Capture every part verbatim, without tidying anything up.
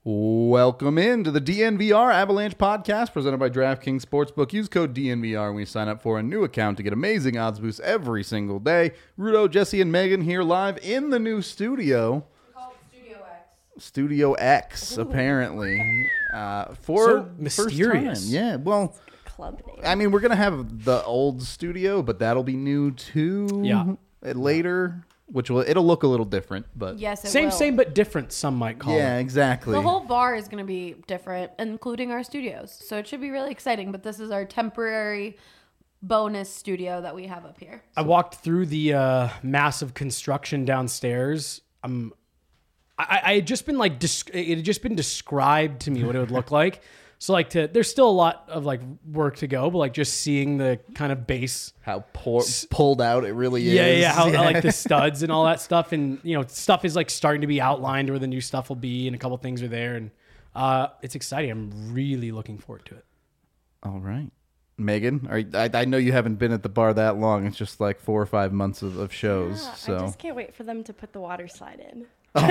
Welcome in to the D N V R Avalanche podcast presented by DraftKings Sportsbook. Use code D N V R when you sign up for a new account to get amazing odds boosts every single day. Rudo, Jesse, and Megan here live in the new studio. We call it Studio X. Studio X, Ooh. apparently. Uh, for So mysterious. First time. Yeah, well, Club name. I mean, we're going to have the old studio, but that'll be new too. Yeah. Later, which will, it'll look a little different, but. Yes, it Same, will. same, but different, some might call Yeah, it. exactly. The whole bar is going to be different, including our studios. So it should be really exciting. But this is our temporary bonus studio that we have up here. I walked through the uh, massive construction downstairs. Um, I, I had just been like, desc- it had just been described to me what it would look like. So like, to there's still a lot of like work to go, but like just seeing the kind of base. How pour, pulled out it really is. Yeah, yeah, how I like the studs and all that stuff, and you know, stuff is like starting to be outlined where the new stuff will be, and a couple things are there, and uh, it's exciting. I'm really looking forward to it. All right. Megan, are you, I, I know you haven't been at the bar that long. It's just like four or five months of, of shows. Yeah, so I just can't wait for them to put the water slide in.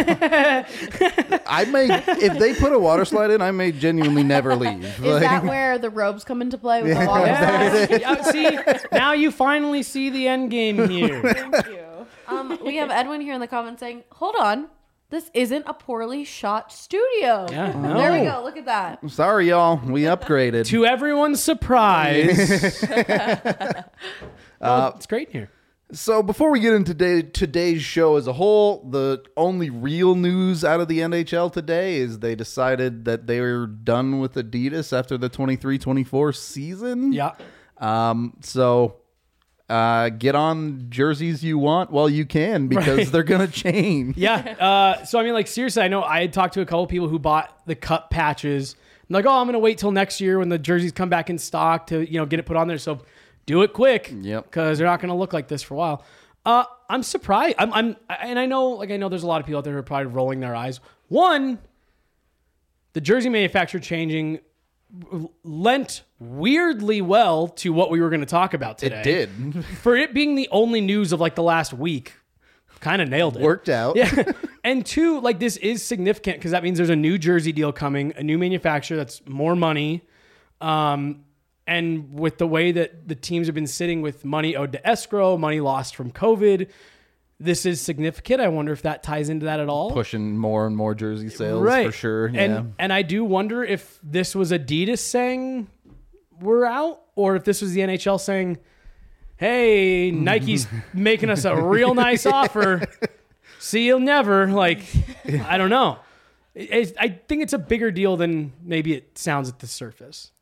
I may, if they put a water slide in, I may genuinely never leave. Is Like, that where the robes come into play with Yeah. the water? Yeah, yeah, see, now you finally see the end game here. Thank you. Um, we have Edwin here in the comments saying, "Hold on, this isn't a poorly shot studio." Yeah, There we no. go. Look at that. sorry, y'all. We upgraded. To everyone's surprise, well, it's great here. So before we get into today, today's show as a whole, the only real news out of the N H L today is they decided that they were done with Adidas after the twenty-three twenty-four season. Yeah, Um, so uh, get on jerseys you want while you can because Right. they're going to change. yeah. Uh, so I mean, like seriously, I know I had talked to a couple people who bought the cup patches. I'm like, oh, I'm gonna wait till next year when the jerseys come back in stock to you know get it put on there. So do it quick, Yep. because they're not gonna look like this for a while. Uh, I'm surprised. I'm, I'm, and I know, like I know, there's a lot of people out there who are probably rolling their eyes. One, the jersey manufacturer changing lent weirdly well to what we were going to talk about today. It did. For it being the only news of like the last week, kind of nailed it. Worked out. Yeah. And two, like this is significant because that means there's a new jersey deal coming, a new manufacturer that's more money. Um, and with the way that the teams have been sitting with money owed to escrow, money lost from COVID, this is significant. I wonder if that ties into that at all. Pushing more and more jersey sales Right. for sure. Yeah. And and I do wonder if this was Adidas saying we're out, or if this was the N H L saying, hey, Nike's making us a real nice offer. See you never. Like, I don't know. It- I think it's a bigger deal than maybe it sounds at the surface.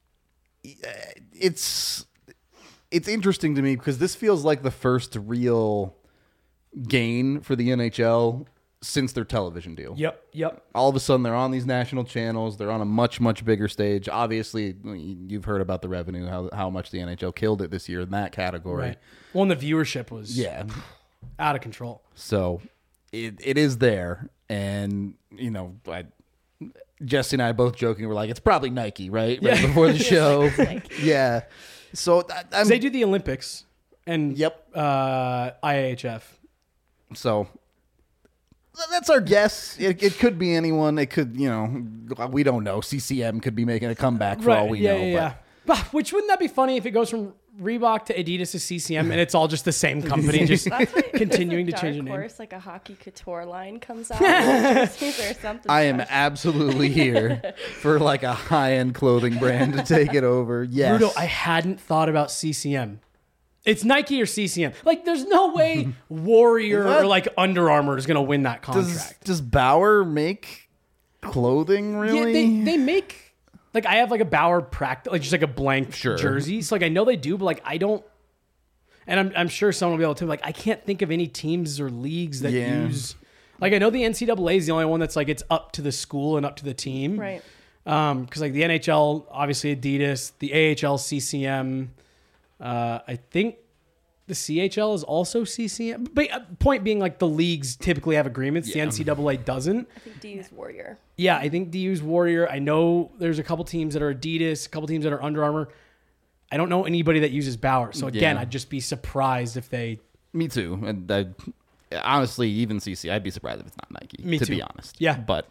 it's it's interesting to me because this feels like the first real gain for the N H L since their television deal. Yep, yep. All of a sudden, they're on these national channels. They're on a much, much bigger stage. Obviously, you've heard about the revenue, how how much the N H L killed it this year in that category. Right. Well, and the viewership was Yeah. out of control. So it it is there. And, you know, I, Jesse and I both joking. We're like, it's probably Nike, right? Right Yeah. before the show. Yeah. So I, I'm, They do the Olympics and Yep. uh, I A H F. So that's our guess. It, it could be anyone. It could, you know, we don't know. C C M could be making a comeback for all we yeah, know. Yeah, yeah. Bah, Which wouldn't that be funny if it goes from Reebok to Adidas to C C M and it's all just the same company, just That's what, continuing to Dark change the name? Horse, like a hockey couture line comes out with jerseys or something. But I am special. absolutely here for like a high-end clothing brand to take it over. Yes. Bruto, I hadn't thought about C C M. It's Nike or C C M. Like, there's no way Warrior What? or like Under Armour is going to win that does, contract. does Bauer make clothing really? Yeah, they, they make like I have like a Bauer practice, like just like a blank Sure. jersey. So like I know they do, but like I don't. And I'm I'm sure someone will be able to. Like I can't think of any teams or leagues that Yeah. use. Like I know the N C double A is the only one that's like it's up to the school and up to the team. Right. Um, because like the N H L, obviously Adidas, the A H L, C C M. Uh, I think the C H L is also C C M. But uh, point being, like the leagues typically have agreements. The Yeah. N C double A doesn't. I think D U's Warrior. Yeah, I think D U's Warrior. I know there's a couple teams that are Adidas, a couple teams that are Under Armour. I don't know anybody that uses Bauer. So again, Yeah. I'd just be surprised if they. Me too. And I, honestly, even C C, I'd be surprised if it's not Nike. Me to too. be honest. Yeah. But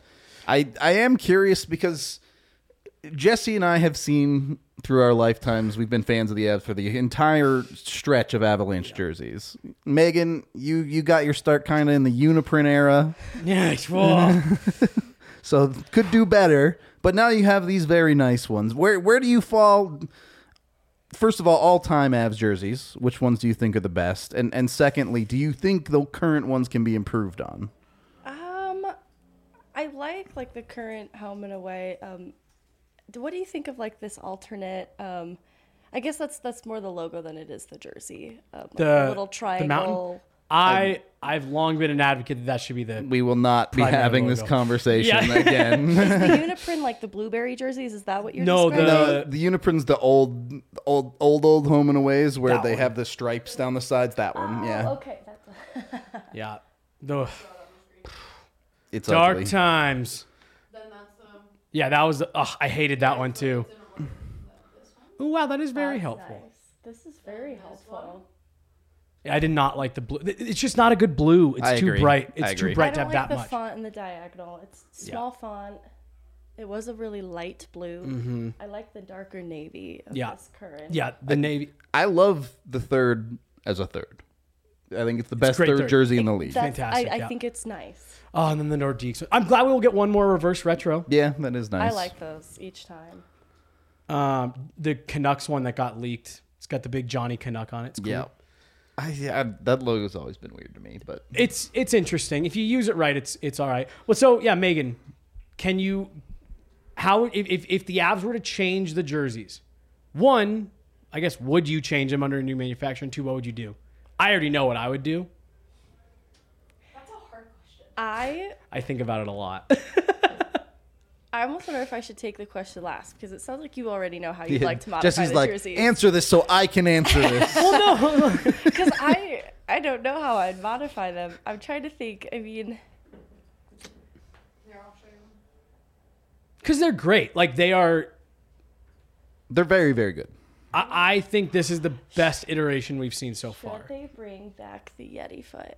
I I am curious because Jesse and I have seen through our lifetimes, we've been fans of the Avs for the entire stretch of Avalanche jerseys. Megan, you you got your start kind of in the Uniprint era, Yeah, well, so could do better. But now you have these very nice ones. Where where do you fall? First of all, all-time Avs jerseys. Which ones do you think are the best? And and secondly, do you think the current ones can be improved on? Um, I like like the current home and away. Um, d- what do you think of like this alternate? Um, I guess that's that's more the logo than it is the jersey. Um, like The- little the triangle. mountain? I I've long been an advocate that that should be the. We will not be Primary having this logo. conversation Yeah. again. Is the Uniprint like the blueberry jerseys? Is that what you're No, describing? No, the Uniprint's the old, old, old, old home and aways where That they one. have the stripes down the sides. That one, Oh, yeah, okay. That's Yeah, the it's dark ugly. times. Then that's the. Yeah, that was. Ugh, I hated that one too. Oh wow, that is very that's helpful. nice. This is very helpful. Yeah, I did not like the blue. It's just not a good blue. It's I too agree. bright. I It's too agree. bright I to don't have like that the much. font in the diagonal. It's small font. It was a really light blue. I like the darker navy of Mm-hmm. Yeah. this current. Yeah, the navy. I love the third as a third. I think it's the best great third, third. jersey in the league. That's, Fantastic, I, I yeah. think it's nice. Oh, and then the Nordiques. I'm glad we will get one more reverse retro. Yeah, that is nice. I like those each time. Um, the Canucks one that got leaked. It's got the big Johnny Canuck on it. It's cool. Yeah, I, yeah, that logo's always been weird to me, but It's it's interesting. If you use it right, it's it's all right. Well, so yeah, Megan, can you how if if, if the Avs were to change the jerseys, one, I guess would you change them under a new manufacturer? And two, what would you do? I already know what I would do. That's a hard question. I I think about it a lot. I almost wonder if I should take the question last because it sounds like you already know how you'd like to modify Jesse's the like, jerseys. answer this so I can answer this. Because I I don't know how I'd modify them. I'm trying to think. I mean, Here, I'll show you. Because they're great. Like they are. They're very, very good. I, I think this is the best iteration we've seen so far. should they bring back the Yeti foot?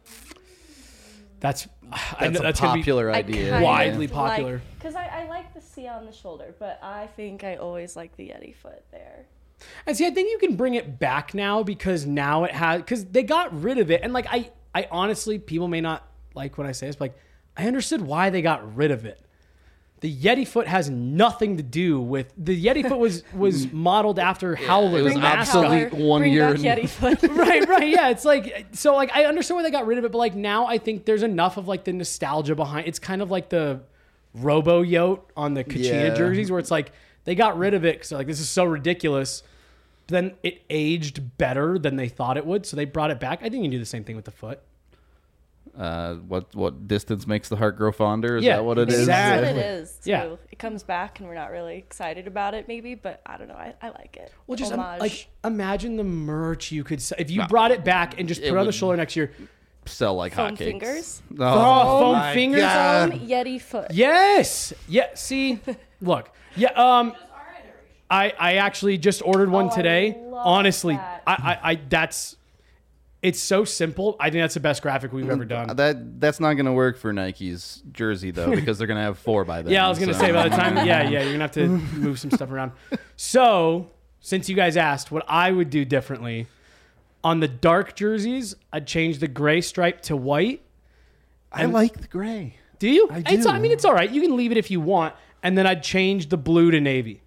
That's I That's know a that's gonna be popular idea. kind Widely of popular. Because I, I like the C on the shoulder, but I think I always like the Yeti foot there. And see, I think you can bring it back now because now it has because they got rid of it. And like I, I honestly, people may not like when I say this, but like I understood why they got rid of it. The Yeti foot has nothing to do with the Yeti foot was was modeled after Howler's it was Bring back mascot. obsolete Howler, one bring year back in- Yeti foot. right, right, yeah. It's like so, like I understand why they got rid of it, but like now I think there's enough of like the nostalgia behind. It's kind of like the Robo Yote on the Kachina Yeah. jerseys, where it's like they got rid of it because like this is so ridiculous. But then it aged better than they thought it would, so they brought it back. I think you can do the same thing with the foot. Uh, what what distance makes the heart grow fonder? Is Yeah, that what it Maybe is? exactly. that's what it is. Too. Yeah. It comes back and we're not really excited about it, maybe, but I don't know. I, I like it. Well, just um, Homage. like imagine the merch you could sell if you brought it back and just It put it on the would- shoulder next year. Sell like Foam hotcakes. fingers? Oh, Oh, foam my fingers? God. Foam Yeti foot. Yes. Yeah. See, look. Yeah. Um. I I actually just ordered one Oh, I today. love Honestly, that. I, I I that's it's so simple. I think that's the best graphic we've ever done. That that's not going to work for Nike's jersey though, because they're going to have four by then. Yeah, I was gonna so- say by the time. Yeah, yeah, you're gonna have to move some stuff around. So since you guys asked, what I would do differently on the dark jerseys, I'd change the gray stripe to white. I like the gray. Do you? I It's, do. I mean, it's all right. You can leave it if you want, and then I'd change the blue to navy.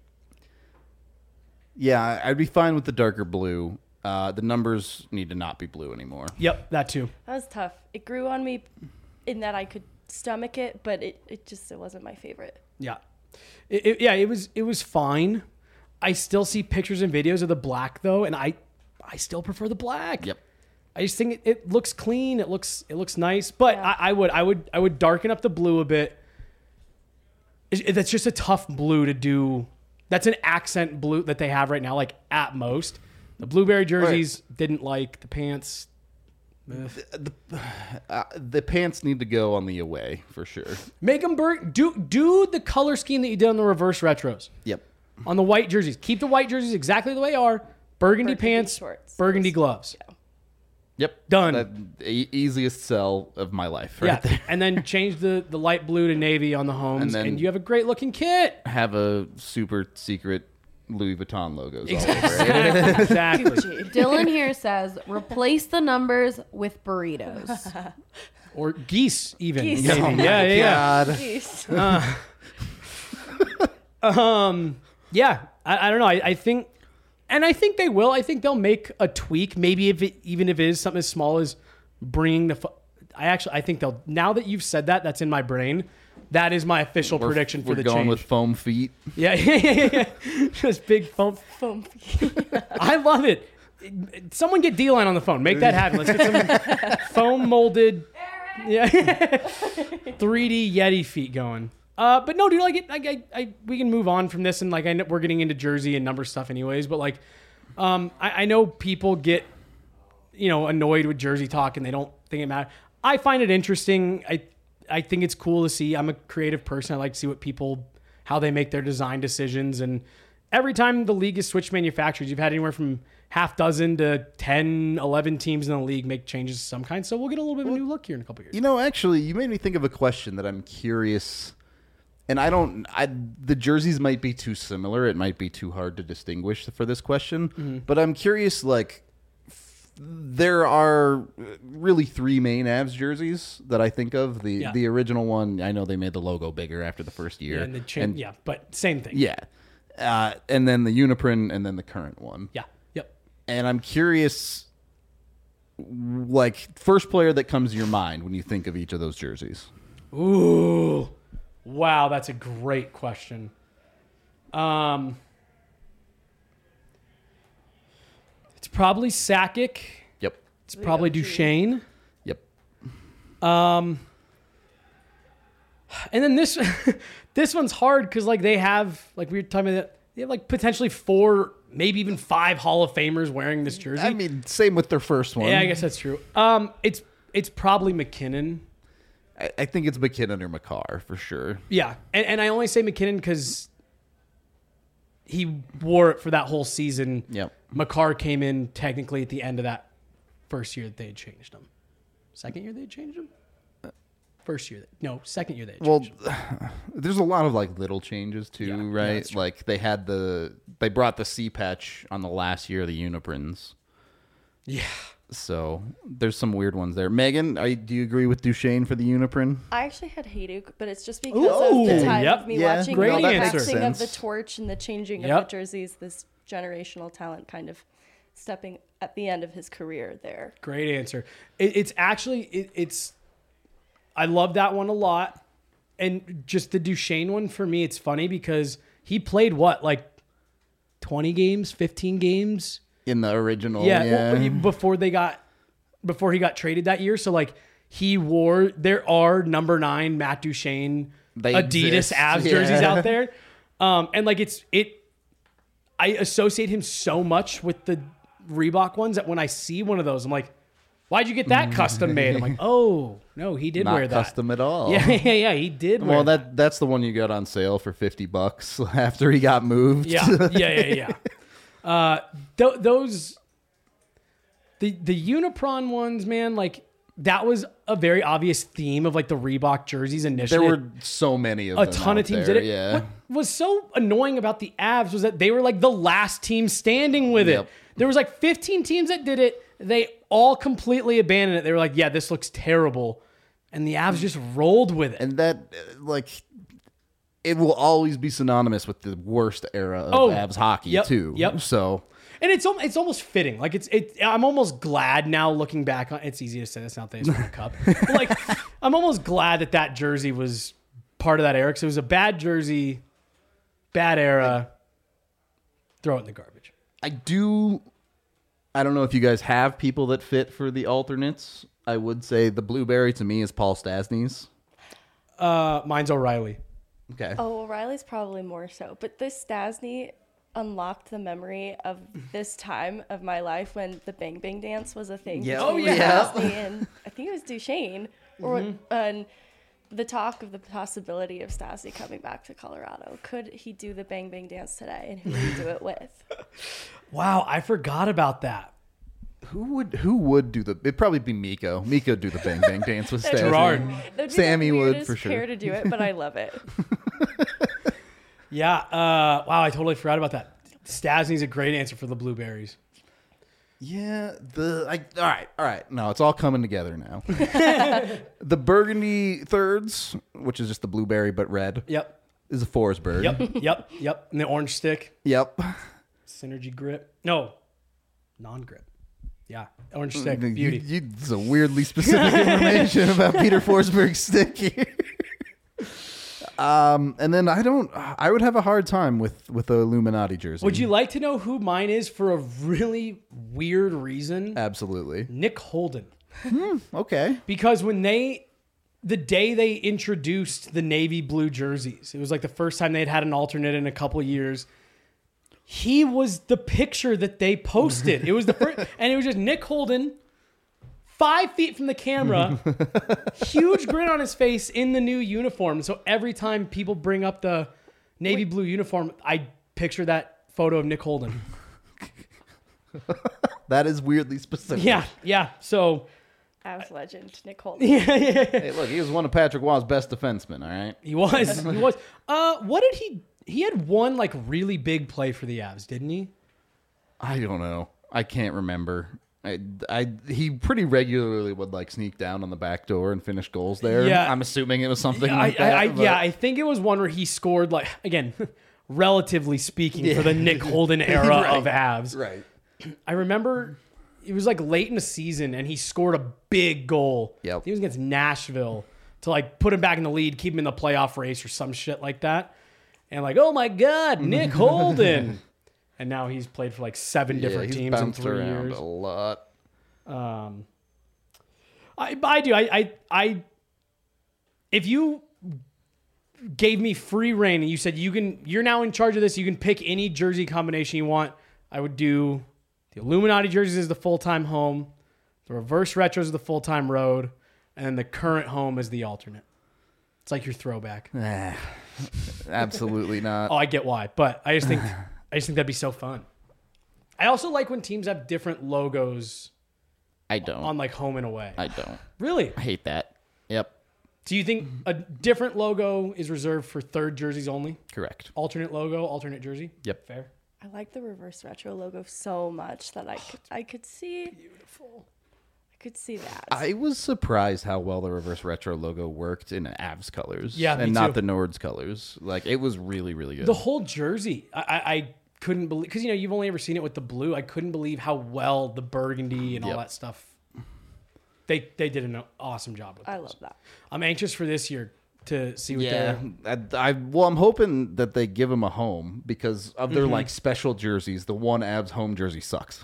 Yeah, I'd be fine with the darker blue. Uh, the numbers need to not be blue anymore. Yep, that too. That was tough. It grew on me in that I could stomach it, but it, it just it wasn't my favorite. Yeah, it, it- yeah. It was it was fine. I still see pictures and videos of the black though, and I I still prefer the black. Yep. I just think it, it looks clean. It looks it looks nice, but Yeah. I, I would I would I would darken up the blue a bit. It, it- that's just a tough blue to do. That's an accent blue that they have right now, like at most. The blueberry jerseys didn't like the pants. Ugh. The, uh, the pants need to go on the away for sure. Make them burn. Do do the color scheme that you did on the reverse retros Yep. on the white jerseys. Keep the white jerseys exactly the way they are. Burgundy, Burgundy pants, shorts. burgundy gloves. Yep. Done. That, e- easiest sell of my life. Right Yeah, there. and then change the, the light blue to navy on the homes, And and, then- you have a great looking kit. Have a super secret Louis Vuitton logos all over it. Exactly. exactly. Gucci. Dylan here says replace the numbers with burritos. Or geese, even. Geese. maybe. Oh my yeah, yeah, yeah. God. Jeez. Um, yeah, I, I don't know. I, I think, and I think they will. I think they'll make a tweak. Maybe if it, even if it is something as small as bringing the. Fo- I actually, I think they'll. Now that you've said that, that's in my brain. That is my official We're- prediction for we're the going change. with foam feet. yeah, yeah, yeah, yeah. Just big foam. Foam. I love it. Someone get D-Line on the phone. Make that happen. Let's get some foam molded, yeah, three D Yeti feet going. Uh, but no, dude, like, it, like I, I, we can move on from this, and like I know we're getting into jersey and number stuff, anyways. But like, um, I, I know people get, you know, annoyed with jersey talk, and they don't think it matters. I find it interesting. I, I think it's cool to see. I'm a creative person. I like to see what people, how they make their design decisions, and every time the league has switched manufacturers, you've had anywhere from half dozen to ten, eleven teams in the league make changes of some kind. So we'll get a little bit of a new look here in a couple of years. You know, actually, you made me think of a question that I'm curious. And I don't, I, the jerseys might be too similar. It might be too hard to distinguish for this question. Mm-hmm. But I'm curious, like, f- there are really three main Avs jerseys that I think of. The Yeah. the original one, I know they made the logo bigger after the first year. Yeah, and the cha- yeah, but same thing. Yeah. Uh, and then the Uniprint, and then the current one. Yeah. Yep. And I'm curious, like, first player that comes to your mind when you think of each of those jerseys. Ooh. Wow, that's a great question. Um, it's probably Sakic. Yep. It's probably Duchesne. Yep. Um, and then this, this one's hard because like they have like we were talking about, they have like potentially four, maybe even five Hall of Famers wearing this jersey. I mean, same with their first one. yeah, I guess that's true. Um, it's it's probably McKinnon. I, I think it's McKinnon or McCarr for sure. Yeah, and, and I only say McKinnon because he wore it for that whole season. Yep. McCarr came in technically at the end of that first year that they had changed him. Second year they had changed him? First year. They, no, second year they had Well, changed him. there's a lot of like little changes too, Yeah, yeah, right? that's true. Like they had the they brought the C patch on the last year of the Uniprints. Yeah. So there's some weird ones there. Megan, are you, do you agree with Duchesne for the Uniprint? I actually had Hayduk, but it's just because Ooh, of the time yep. of me Yeah. watching Great the answer. passing of the Sense. torch and the changing Yep. of the jerseys. This generational talent kind of stepping at the end of his career there. Great answer. It, it's actually, it, it's, I love that one a lot. And just the Duchesne one for me, it's funny because he played what, like twenty games, fifteen games? In the original, Yeah, yeah. well, before they got before he got traded that year. So like he wore there are number nine Matt Duchesne They Adidas exist, Avs yeah. jerseys out there. Um, and like it's it I associate him so much with the Reebok ones that when I see one of those, I'm like, why'd you get that custom made? I'm like, oh no, he did Not wear that. custom at all. Yeah, yeah, yeah. He did wear Well, that that's the one you got on sale for fifty bucks after he got moved. Yeah, yeah, yeah, yeah. Uh, th- those, the the Unipron ones, man, like that was a very obvious theme of like the Reebok jerseys initially. There were so many of a them. ton of out teams there, did it. Yeah. What was so annoying about the Avs was that they were like the last team standing with Yep. it. There was like fifteen teams that did it. They all completely abandoned it. They were like, yeah, this looks terrible. And the Avs just rolled with it. And that, uh, like, it will always be synonymous with the worst era of Oh, Avs hockey, yep, too. yep. So, And it's al- it's almost fitting. Like it's it. I'm almost glad now looking back on. It's easy to say this now that they won the cup. But like I'm almost glad that that jersey was part of that era because it was a bad jersey, bad era. Throw it in the garbage. I do. I don't know if you guys have people that fit for the alternates. I would say the blueberry to me is Paul Stasny's. Uh, mine's O'Reilly. Okay. Oh, O'Reilly's probably more so. But this Stasny unlocked the memory of this time of my life when the Bang Bang dance was a thing. Yeah. between Oh, yeah. Stasny and I think it was Duchesne. Or and the talk of the possibility of Stasny coming back to Colorado. Could he do the Bang Bang dance today? And who would he do it with? Wow, I forgot about that. Who would who would do the? It'd probably be Miko. Miko would do the bang bang dance with Stasny. Gerard. That'd be Sammy the would weirdest for sure. pair to do it, but I love it. Yeah. Uh, wow, I totally forgot about that. Stasny's a great answer for the blueberries. Yeah, the I, all right, all right. No, it's all coming together now. The burgundy thirds, which is just the blueberry but red, Yep. is a Forsberg. Yep. Yep. Yep. And the orange stick, Yep. synergy grip. No, non-grip. Yeah, orange stick, You- beauty. You, it's a weirdly specific information about Peter Forsberg's stick here. Um, and then I don't. I would have a hard time with with the Illuminati jersey. Would you like to know who mine is for a really weird reason? Absolutely. Nick Holden. Okay. Because when they, the day they introduced the navy blue jerseys, it was like the first time they'd had an alternate in a couple of years. He was the picture that they posted. It was the first, and it was just Nick Holden, five feet from the camera, huge grin on his face in the new uniform. So every time people bring up the navy blue uniform, I picture that photo of Nick Holden. That is weirdly specific. Yeah, yeah. So Avs legend, Nick Holden. Hey, look, he was one of Patrick Waugh's best defensemen. All right. he was, he was. Uh, what did he? He had one like really big play for the Avs, didn't he? I don't know. I can't remember. I, I he pretty regularly would like sneak down on the back door and finish goals there. Yeah. I'm assuming it was something I, like that. I, I, but- yeah, I think it was one where he scored like again, relatively speaking, for the Nick Holden era Right. of Avs. Right. I remember it was like late in the season and he scored a big goal. Yep. He was against Nashville to like put him back in the lead, keep him in the playoff race or some shit like that. And like, oh my God, Nick Holden. And now he's played for like seven Yeah, different he's teams in bounced three around years. a lot. Um, I, I do. I, I, I, if you gave me free reign and you said you can, you're now in charge of this, you can pick any jersey combination you want, I would do the Illuminati jerseys as the full-time home, the reverse retros as the full-time road, and then the current home as the alternate. It's like your throwback. Ah, absolutely not. Oh, I get why, but I just think, I just think that'd be so fun. I also like when teams have different logos I don't. on like home and away. I don't. Really? I hate that. Yep. Do you think a different logo is reserved for third jerseys only? Correct. Alternate logo, alternate jersey? Yep. Fair. I like the reverse retro logo so much that I could, I could see Beautiful. I could see that. I was surprised how well the reverse retro logo worked in Avs colors. Yeah, me and not too. the Nords colors. Like it was really, really good. The whole jersey, I, I, I couldn't believe, because, you know, you've only ever seen it with the blue. I couldn't believe how well the burgundy and all Yep. that stuff, they they did an awesome job with I those. love that. I'm anxious for this year to see what yeah, they're... I, I well, I'm hoping that they give him a home because of Mm-hmm. their like special jerseys. The one Avs home jersey sucks.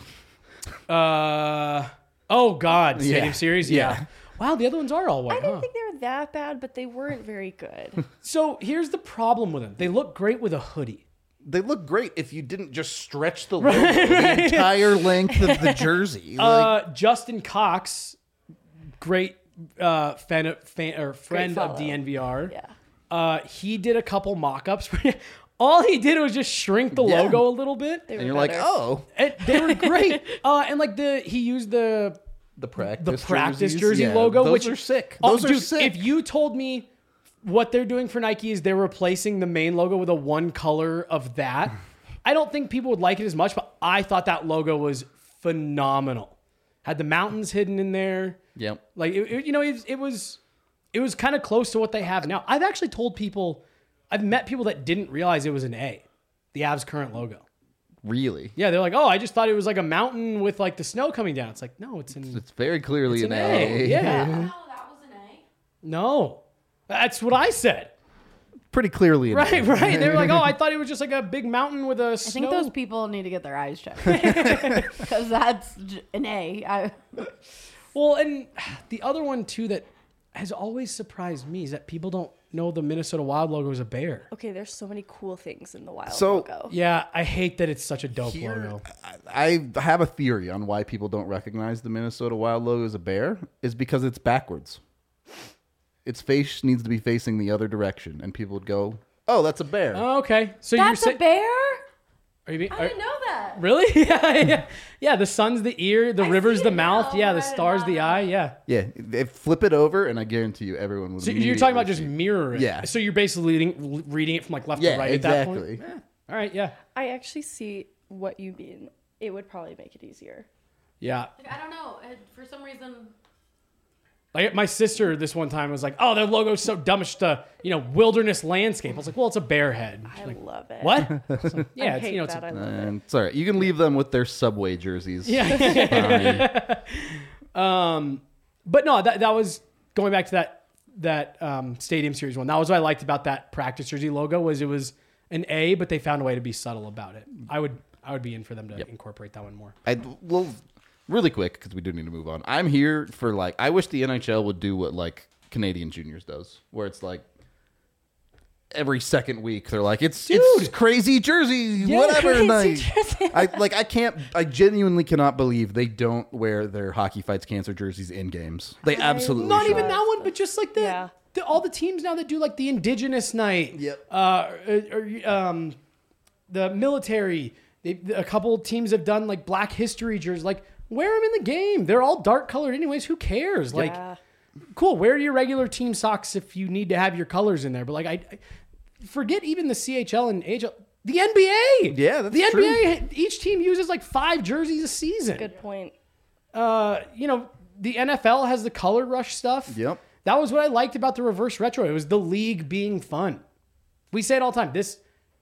Uh, oh, God. Stadium Yeah. Series? Yeah. Yeah. Wow, the other ones are all I white, didn't huh? think they were that bad, but they weren't very good. So here's the problem with them. They look great with a hoodie. They look great if you didn't just stretch the logo the entire length of the jersey. Like, Uh, Justin Cox, great uh, fan, fan or friend of follow. D N V R. Yeah. Uh, he did a couple mock-ups. All he did was just shrink the Yeah. logo a little bit. They were and you're like, better. oh, And they were great. uh, and like the he used the the practice, the practice jerseys. jersey Yeah, logo, those which are sick. Oh, Those are dude, sick. If you told me what they're doing for Nike is they're replacing the main logo with a one color of that, I don't think people would like it as much. But I thought that logo was phenomenal. Had the mountains hidden in there. Yep. Like it, it- you know, it, it was it was kind of close to what they have now. I've actually told people, I've met people that didn't realize it was an A, the Avs current logo. Really, Yeah, they're like, oh, I just thought it was like a mountain with like the snow coming down. It's like, no, it's an it's very clearly it's an, an A. A. Yeah, Oh, that was an A. no, that's what I said. Pretty clearly an Right, A. right. They were like, oh, I thought it was just like a big mountain with a I snow. think those people need to get their eyes checked because that's j- an A. I, Well, and the other one too that has always surprised me is that people don't know the Minnesota Wild logo is a bear. Okay, there's so many cool things in the Wild So- logo. Yeah, I hate that it's such a dope Here, logo. I I have a theory on why people don't recognize the Minnesota Wild logo as a bear is because it's backwards. Its face needs to be facing the other direction, and people would go, "Oh, that's a bear." Oh, okay, so that's you're a bear? Are you being, I are, didn't know that. really? yeah, yeah. Yeah, the sun's the ear, the I river's see the it mouth. now, Yeah, but the I did star's not the know. eye. Yeah. Yeah, they flip it over, and I guarantee you, everyone would. So you're talking about just immediately see- mirroring. Yeah. So you're basically reading, reading it from like left Yeah, to right at that point. exactly. Yeah. All right. Yeah. I actually see what you mean. It would probably make it easier. Yeah. Like, I don't know. It, for some reason, Like my sister this one time was like, "Oh, their logo's so dumb. It's just a you know wilderness landscape." I was like, "Well, it's a bear head." I Like, love it. what? I was like, yeah, I it's hate you know, it's that. a, I love it. And it's all right. You can leave them with their Subway jerseys. yeah. um, but no, that that was going back to that that um, Stadium Series one. That was what I liked about that practice jersey logo was it was an A, but they found a way to be subtle about it. I would I would be in for them to incorporate that one more. I well, really quick because we do need to move on. I'm here for like. I wish the N H L would do what like Canadian Juniors does, where it's like every second week they're like it's it's crazy jersey whatever crazy night. jersey. I like I can't. I genuinely cannot believe they don't wear their Hockey Fights Cancer jerseys in games. They absolutely Not should. even that one, but just like the, Yeah. the all the teams now that do like the Indigenous night. Yep. Uh, or, or, um, the military. They, a couple teams have done like Black History jerseys. Like wear them in the game. They're all dark colored anyways. Who cares? Like. Yeah. Cool. Wear your regular team socks if you need to have your colors in there. But like, I, I forget even the C H L and A H L. The N B A. Yeah, that's the true. N B A. Each team uses like five jerseys a season. Good point. Uh, you know, the N F L has the color rush stuff. Yep. That was what I liked about the reverse retro. It was the league being fun. We say it all the time. This,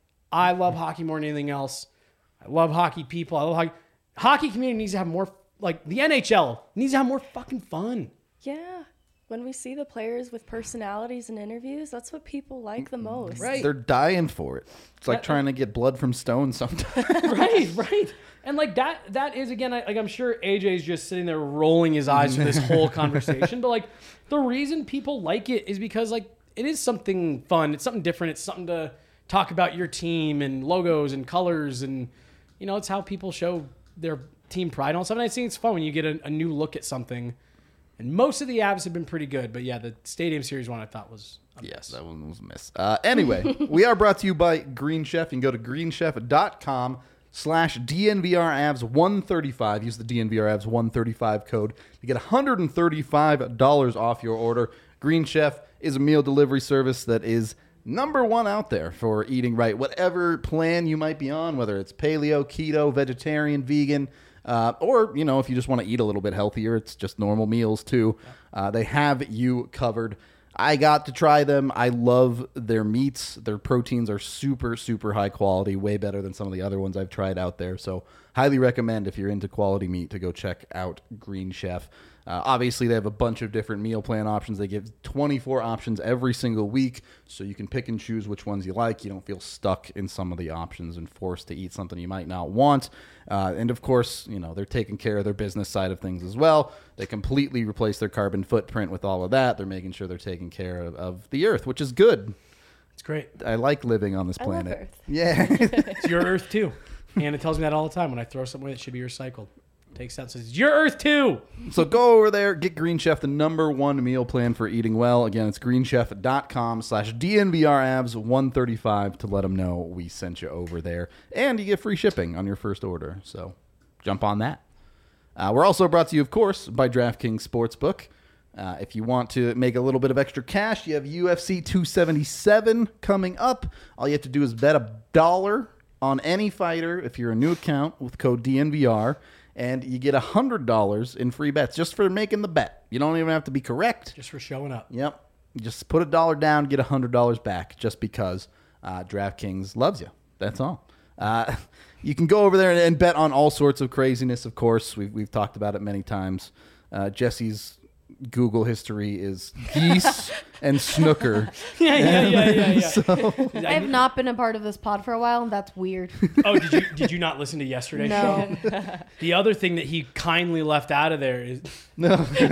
I love hockey more than anything else. I love hockey people. I love hockey. Hockey community needs to have more. Like the N H L needs to have more fucking fun. Yeah. When we see the players with personalities in interviews, that's what people like the most. Right. They're dying for it. It's like Uh, trying to get blood from stone sometimes. right, right. And like that, that is again, I, like I'm sure A J's just sitting there rolling his eyes through this whole conversation. But like the reason people like it is because like it is something fun. It's something different. It's something to talk about your team and logos and colors and you know it's how people show their team pride and all stuff. And I think it's fun when you get a, a new look at something. And most of the abs have been pretty good, but yeah, the Stadium Series one I thought was a Yes, miss. that one was a miss. Uh, anyway, we are brought to you by Green Chef. You can go to greenchef.com slash DNVRAvs one thirty-five. Use the D N V R Avs one thirty-five code to get one hundred thirty-five dollars off your order. Green Chef is a meal delivery service that is number one out there for eating right. Whatever plan you might be on, whether it's paleo, keto, vegetarian, vegan, Uh, or, you know, if you just want to eat a little bit healthier, it's just normal meals too. Uh, they have you covered. I got to try them. I love their meats. Their proteins are super, super high quality, way better than some of the other ones I've tried out there. So highly recommend if you're into quality meat to go check out Green Chef. Uh, obviously, they have a bunch of different meal plan options. They give twenty-four options every single week, so you can pick and choose which ones you like. You don't feel stuck in some of the options and forced to eat something you might not want. Uh, and of course, you know, they're taking care of their business side of things as well. They completely replace their carbon footprint with all of that. They're making sure they're taking care of, of the earth, which is good. It's great. I like living on this I love planet. Earth. Yeah. It's your Earth too. And it tells me that all the time when I throw something away that should be recycled. Takes that and says, it's your Earth too. So go over there, get Green Chef, the number one meal plan for eating well. Again, it's greenchef.com slash DNVRAvs one thirty-five to let them know we sent you over there. And you get free shipping on your first order. So jump on that. Uh, we're also brought to you, of course, by DraftKings Sportsbook. Uh, if you want to make a little bit of extra cash, you have U F C two seventy-seven coming up. All you have to do is bet a dollar on any fighter if you're a new account with code D N V R. And you get one hundred dollars in free bets just for making the bet. You don't even have to be correct. Just for showing up. Yep. You just put a dollar down, get one hundred dollars back just because uh, DraftKings loves you. That's all. Uh, you can go over there and, and bet on all sorts of craziness, of course. We've, we've talked about it many times. Uh, Jesse's Google history is geese and snooker. Yeah, yeah, yeah, yeah, yeah. So, I have not been a part of this pod for a while, and that's weird. Oh, did you did you not listen to yesterday's No. show? The other thing that he kindly left out of there is no.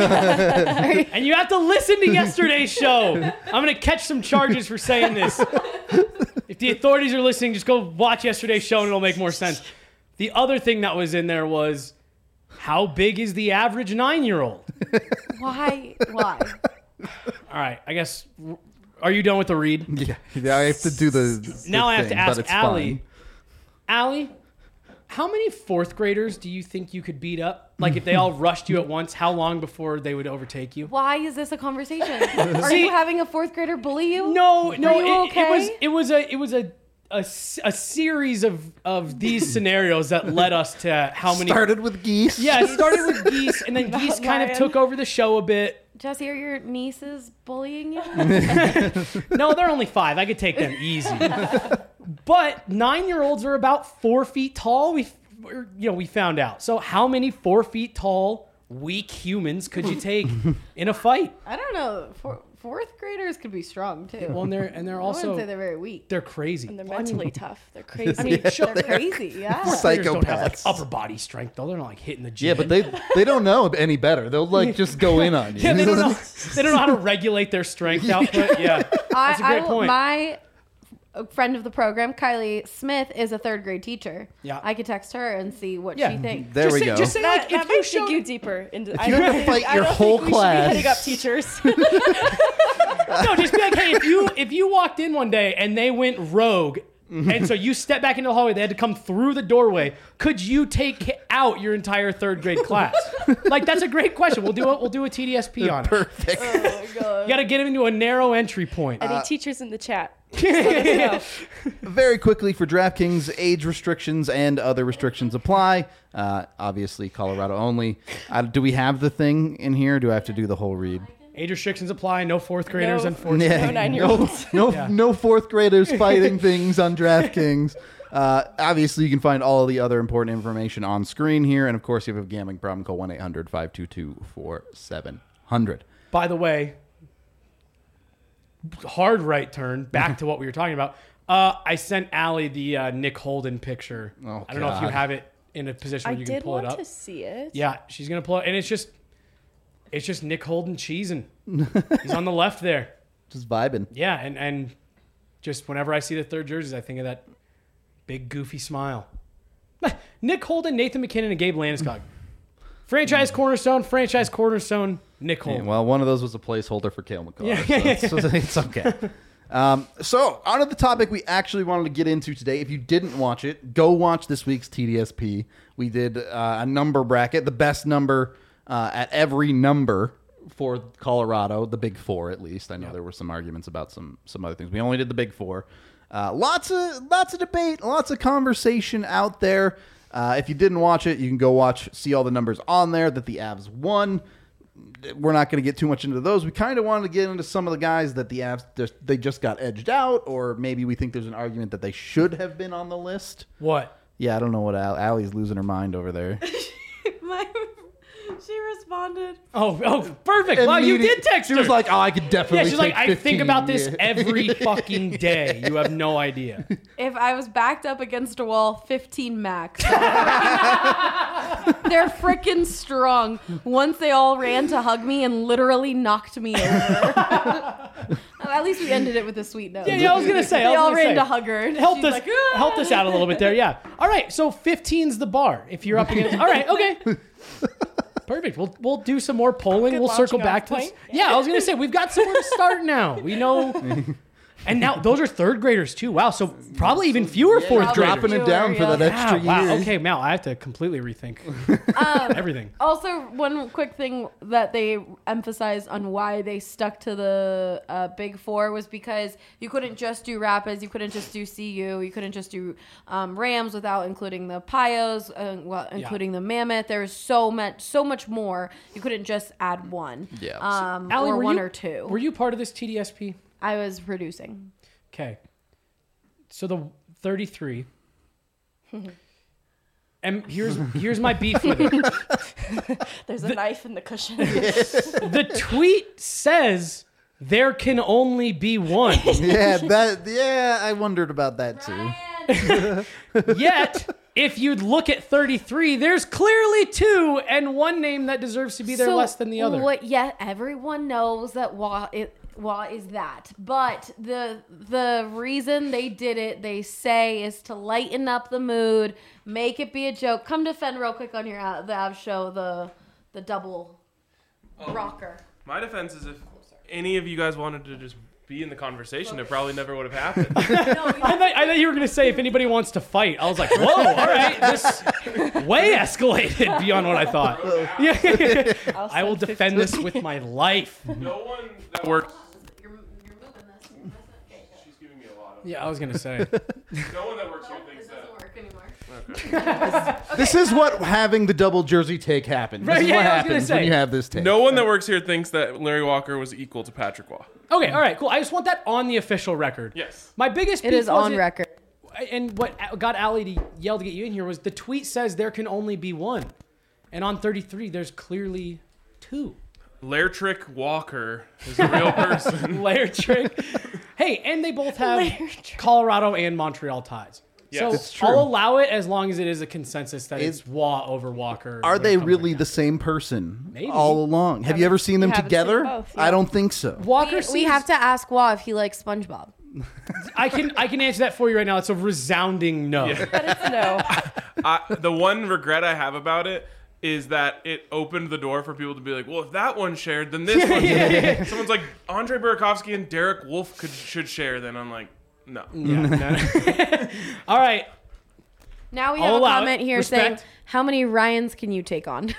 and you have to listen to yesterday's show. I'm gonna catch some charges for saying this. If the authorities are listening, just go watch yesterday's show and it'll make more sense. The other thing that was in there was how big is the average nine-year-old? Why? Why? All right, I guess. Are you done with the read? Yeah, yeah, I have to do the, the Now I have to thing, ask but it's Allie. fine. Allie, How many fourth graders do you think you could beat up? Like if they all rushed you at once, how long before they would overtake you? Why is this a conversation? Are See- you having a fourth grader bully you? No, no, Are you it, it was okay? it was a it was a a, s- a series of of these scenarios that led us to how many. Started with geese. Yeah, it started with geese, and then geese kind of lion. took over the show a bit. Jesse, are your nieces bullying you? No, they're only five. I could take them easy. But nine-year-olds are about four feet tall. We, we're- you know, we found out. So how many four feet tall, weak humans could you take in a fight? I don't know. For, fourth graders could be strong too. Well, and they're and they're I wouldn't also say they're very weak. they're crazy. And they're mentally tough. They're crazy. I mean, sure, They're crazy. Yeah. fourth graders don't have like Psychopaths. upper body strength though. They're not like hitting the gym. Yeah, but they they don't know any better. They'll like just go in on you. yeah, they You don't know know. They don't know how to regulate their strength output. Yeah, that's a I, great I, point. My a friend of the program, Kylie Smith, is a third grade teacher. Yeah. I could text her and see what Yeah. she thinks. There just we say, go. Just say that like that if you might showed dig you deeper into. I you don't have to think- fight I your don't whole think we should be heading class. up teachers. no, just be like, hey, if you if you walked in one day and they went rogue, and so you stepped back into the hallway, they had to come through the doorway. Could you take out your entire third grade class? Like that's a great question. We'll do a, we'll do a T D S P on it. Perfect. Oh my god. You got to get them into a narrow entry point. Any teachers in the chat? Just let us know. Very quickly for DraftKings, age restrictions and other restrictions apply. Uh, obviously, Colorado only. Uh, do we have the thing in here? Or do I have to do the whole read? Age restrictions apply. No fourth graders, No. unfortunately. Yeah, No nine-year-olds. No, no, Yeah. no fourth graders fighting things on DraftKings. Uh, obviously, you can find all the other important information on screen here. And of course, if you have a gambling problem, call one eight hundred five two two four seven zero zero. By the way, hard right turn back to what we were talking about. Uh, I sent Allie the uh, Nick Holden picture. Oh, I don't know if you God. have it in a position I where you can did pull it want up. to see it. Yeah, she's gonna pull it, and it's just, it's just Nick Holden cheesing. He's on the left there. Just vibing. Yeah, and and just whenever I see the third jerseys, I think of that big goofy smile. Nick Holden, Nathan McKinnon, and Gabe Landeskog. Franchise cornerstone, franchise cornerstone. Nick Yeah, Holden. well, one of those was a placeholder for Kale McCarr. Yeah. So it's, it's okay. Um, so, on to the topic we actually wanted to get into today. If you didn't watch it, go watch this week's T D S P. We did uh, a number bracket, the best number uh, at every number for Colorado, the big four at least. I know there were some arguments about some some other things. We only did the big four. Uh, lots of lots of debate, lots of conversation out there. Uh, if you didn't watch it, you can go watch, see all the numbers on there that the Avs won. We're not going to get too much into those. We kind of wanted to get into some of the guys that the Avs just, they just got edged out, or maybe we think there's an argument that they should have been on the list. What? Yeah, I don't know what Al- Allie's losing her mind over there. My, she responded. Oh, oh, perfect. Wow, you did text She her. was like, "Oh, I could definitely." yeah, she's like, take I think fifteen." about this Yeah. every fucking day. You have no idea. If I was backed up against a wall, fifteen max. They're freaking strong. Once they all ran to hug me and literally knocked me over. At least we ended it with a sweet note. Yeah, yeah, I was gonna say. I They was all gonna ran say. to hug her. and Helped she's us, like, "Ah." helped us out a little bit there. Yeah. All right. So fifteen's the bar. If you're up against. All right. Okay. Perfect. We'll we'll do some more polling. Good We'll circle launching back off to this. point. Yeah, I was gonna say we've got somewhere to start now. We know. And now those are third graders too. Wow. So probably even fewer fourth graders. dropping it down for that Yeah, extra Yeah, year. wow. Okay, Mal, I have to completely rethink everything. Also, one quick thing that they emphasized on why they stuck to the uh, Big Four was because you couldn't just do Rapids, you couldn't just do C U, you couldn't just do um, Rams without including the Pios, uh, well, including the Mammoth. There was so much, so much more. You couldn't just add one, Yeah. um, Allie, or were one you, or two. Were you part of this T D S P? I was producing. Okay. So the thirty-three. And here's here's my beef with it. There's a knife in the cushion. The tweet says there can only be one. Yeah, that. Yeah, I wondered about that too. Yet, if you'd look at thirty-three, there's clearly two and one name that deserves to be there So less than the other. What? Yeah, everyone knows that Wah it Wah is that, but the the reason they did it, they say, is to lighten up the mood, make it be a joke. Come defend real quick on your Av- the Av show, the the double rocker. My defense is if any of you guys wanted to just be in the conversation, it probably never would have happened. I, thought, I thought you were going to say if anybody wants to fight. I was like, whoa, all right, this way escalated beyond what I thought. Yeah, I'll I will send defend this with my life. No one that works. You're, you're moving this. You're messing- okay, good. She's giving me a lot of. Yeah, I was going to say. No one that works here Nope, thinks it that. doesn't work anymore. This is what having the double jersey take happens. This Right, is yeah, what I was gonna happens say. when you have this take. No one that works here thinks that Larry Walker was equal to Patrick Waugh. Okay, all right, cool. I just want that on the official record. Yes. My biggest It beef is on wasn't- record. And what got Allie to yell to get you in here was the tweet says there can only be one. And on thirty-three, there's clearly two. Lairtrick Walker is a real person. Lair trick. Hey, and they both have Lair trick. Colorado and Montreal ties. Yes. So It's true. I'll allow it as long as it is a consensus that Is- it's Waugh over Walker. Are when they it comes really right the now. same person Maybe. all along? Have you Haven't- ever seen them haven't seen together? both, I yeah. don't think so. Walker We, we seems- have to ask Waugh if he likes SpongeBob. I can I can answer that for you right now. It's a resounding no. But it's no. I, the one regret I have about it is that it opened the door for people to be like, well, if that one shared, then this one should. Someone's like, Andre Burakovsky and Derek Wolf could should share. Then I'm like, no. Yeah, no. All right. Now we I'll have a allow comment it. here Respect. saying, how many Ryans can you take on?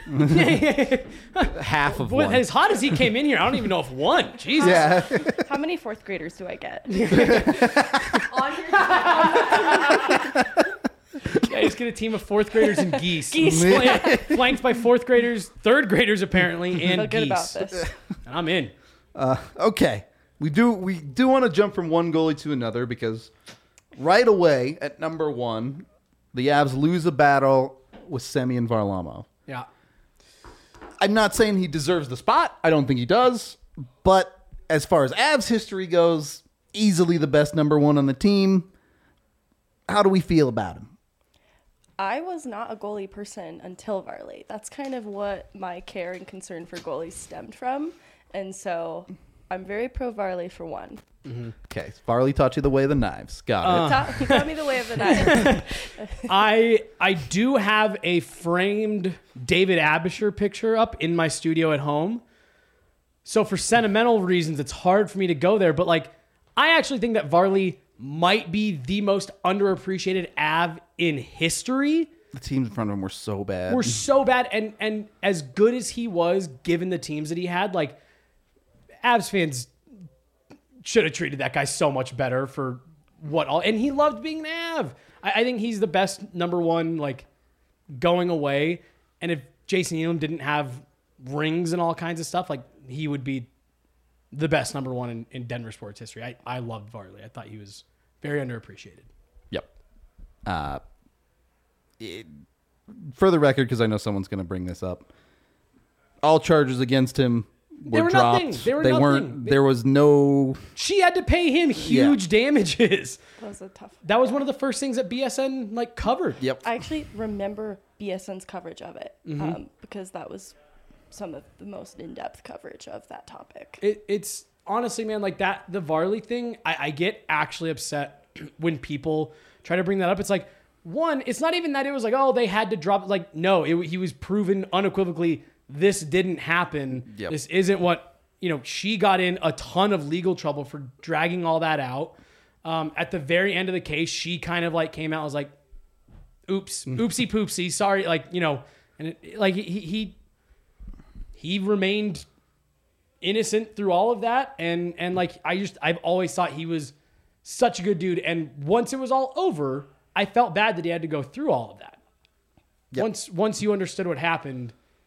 Half of Boy, one. as hot as he came in here, I don't even know if one. Jesus. Yeah. How many fourth graders do I get? on your Yeah, just get a team of fourth graders and geese. Geese. Flan- Flanked by fourth graders, third graders apparently, and Feel good about geese. this. And I'm in. Okay. We do we do want to jump from one goalie to another because right away at number one, the Avs lose a battle with Semyon Varlamov. Yeah. I'm not saying he deserves the spot. I don't think he does. But as far as Avs history goes, easily the best number one on the team. How do we feel about him? I was not a goalie person until Varley. That's kind of what my care and concern for goalies stemmed from. And so I'm very pro Varley for one. Okay, Farley taught you the way of the knives. Got Uh. it. Ta- He taught me the way of the knife. I I do have a framed David Abisher picture up in my studio at home. So for sentimental reasons, it's hard for me to go there. But like, I actually think that Varley might be the most underappreciated Av in history. The teams in front of him were so bad. Were so bad, and and as good as he was, given the teams that he had, like Avs fans should have treated that guy so much better for what all. And he loved being an Av. I, I think he's the best number one, like going away. And if Jason Elam didn't have rings and all kinds of stuff, like he would be the best number one in, in Denver sports history. I, I loved Varley. I thought he was very underappreciated. Yep. Uh, it, for the record, because I know someone's going to bring this up, all charges against him were, They were dropped. nothing. They were nothing. weren't. There was no. She had to pay him huge damages. That was a tough. That was one of the first things that B S N like covered. Yep. I actually remember B S N's coverage of it Mm-hmm. um, because that was some of the most in-depth coverage of that topic. It, it's honestly, man, like that, the Varley thing, I, I get actually upset when people try to bring that up. It's like, one, it's not even that it was like, oh, they had to drop. Like, no, it, he was proven unequivocally this didn't happen. Yep. This isn't what, you know, she got in a ton of legal trouble for dragging all that out. Um, at the very end of the case, she kind of like came out and was like, oops, oopsie poopsie, sorry. Like, you know, and it, like he, he, he remained innocent through all of that. And, and like, I just, I've always thought he was such a good dude. And once it was all over, I felt bad that he had to go through all of that. Yep. Once, once you understood what happened,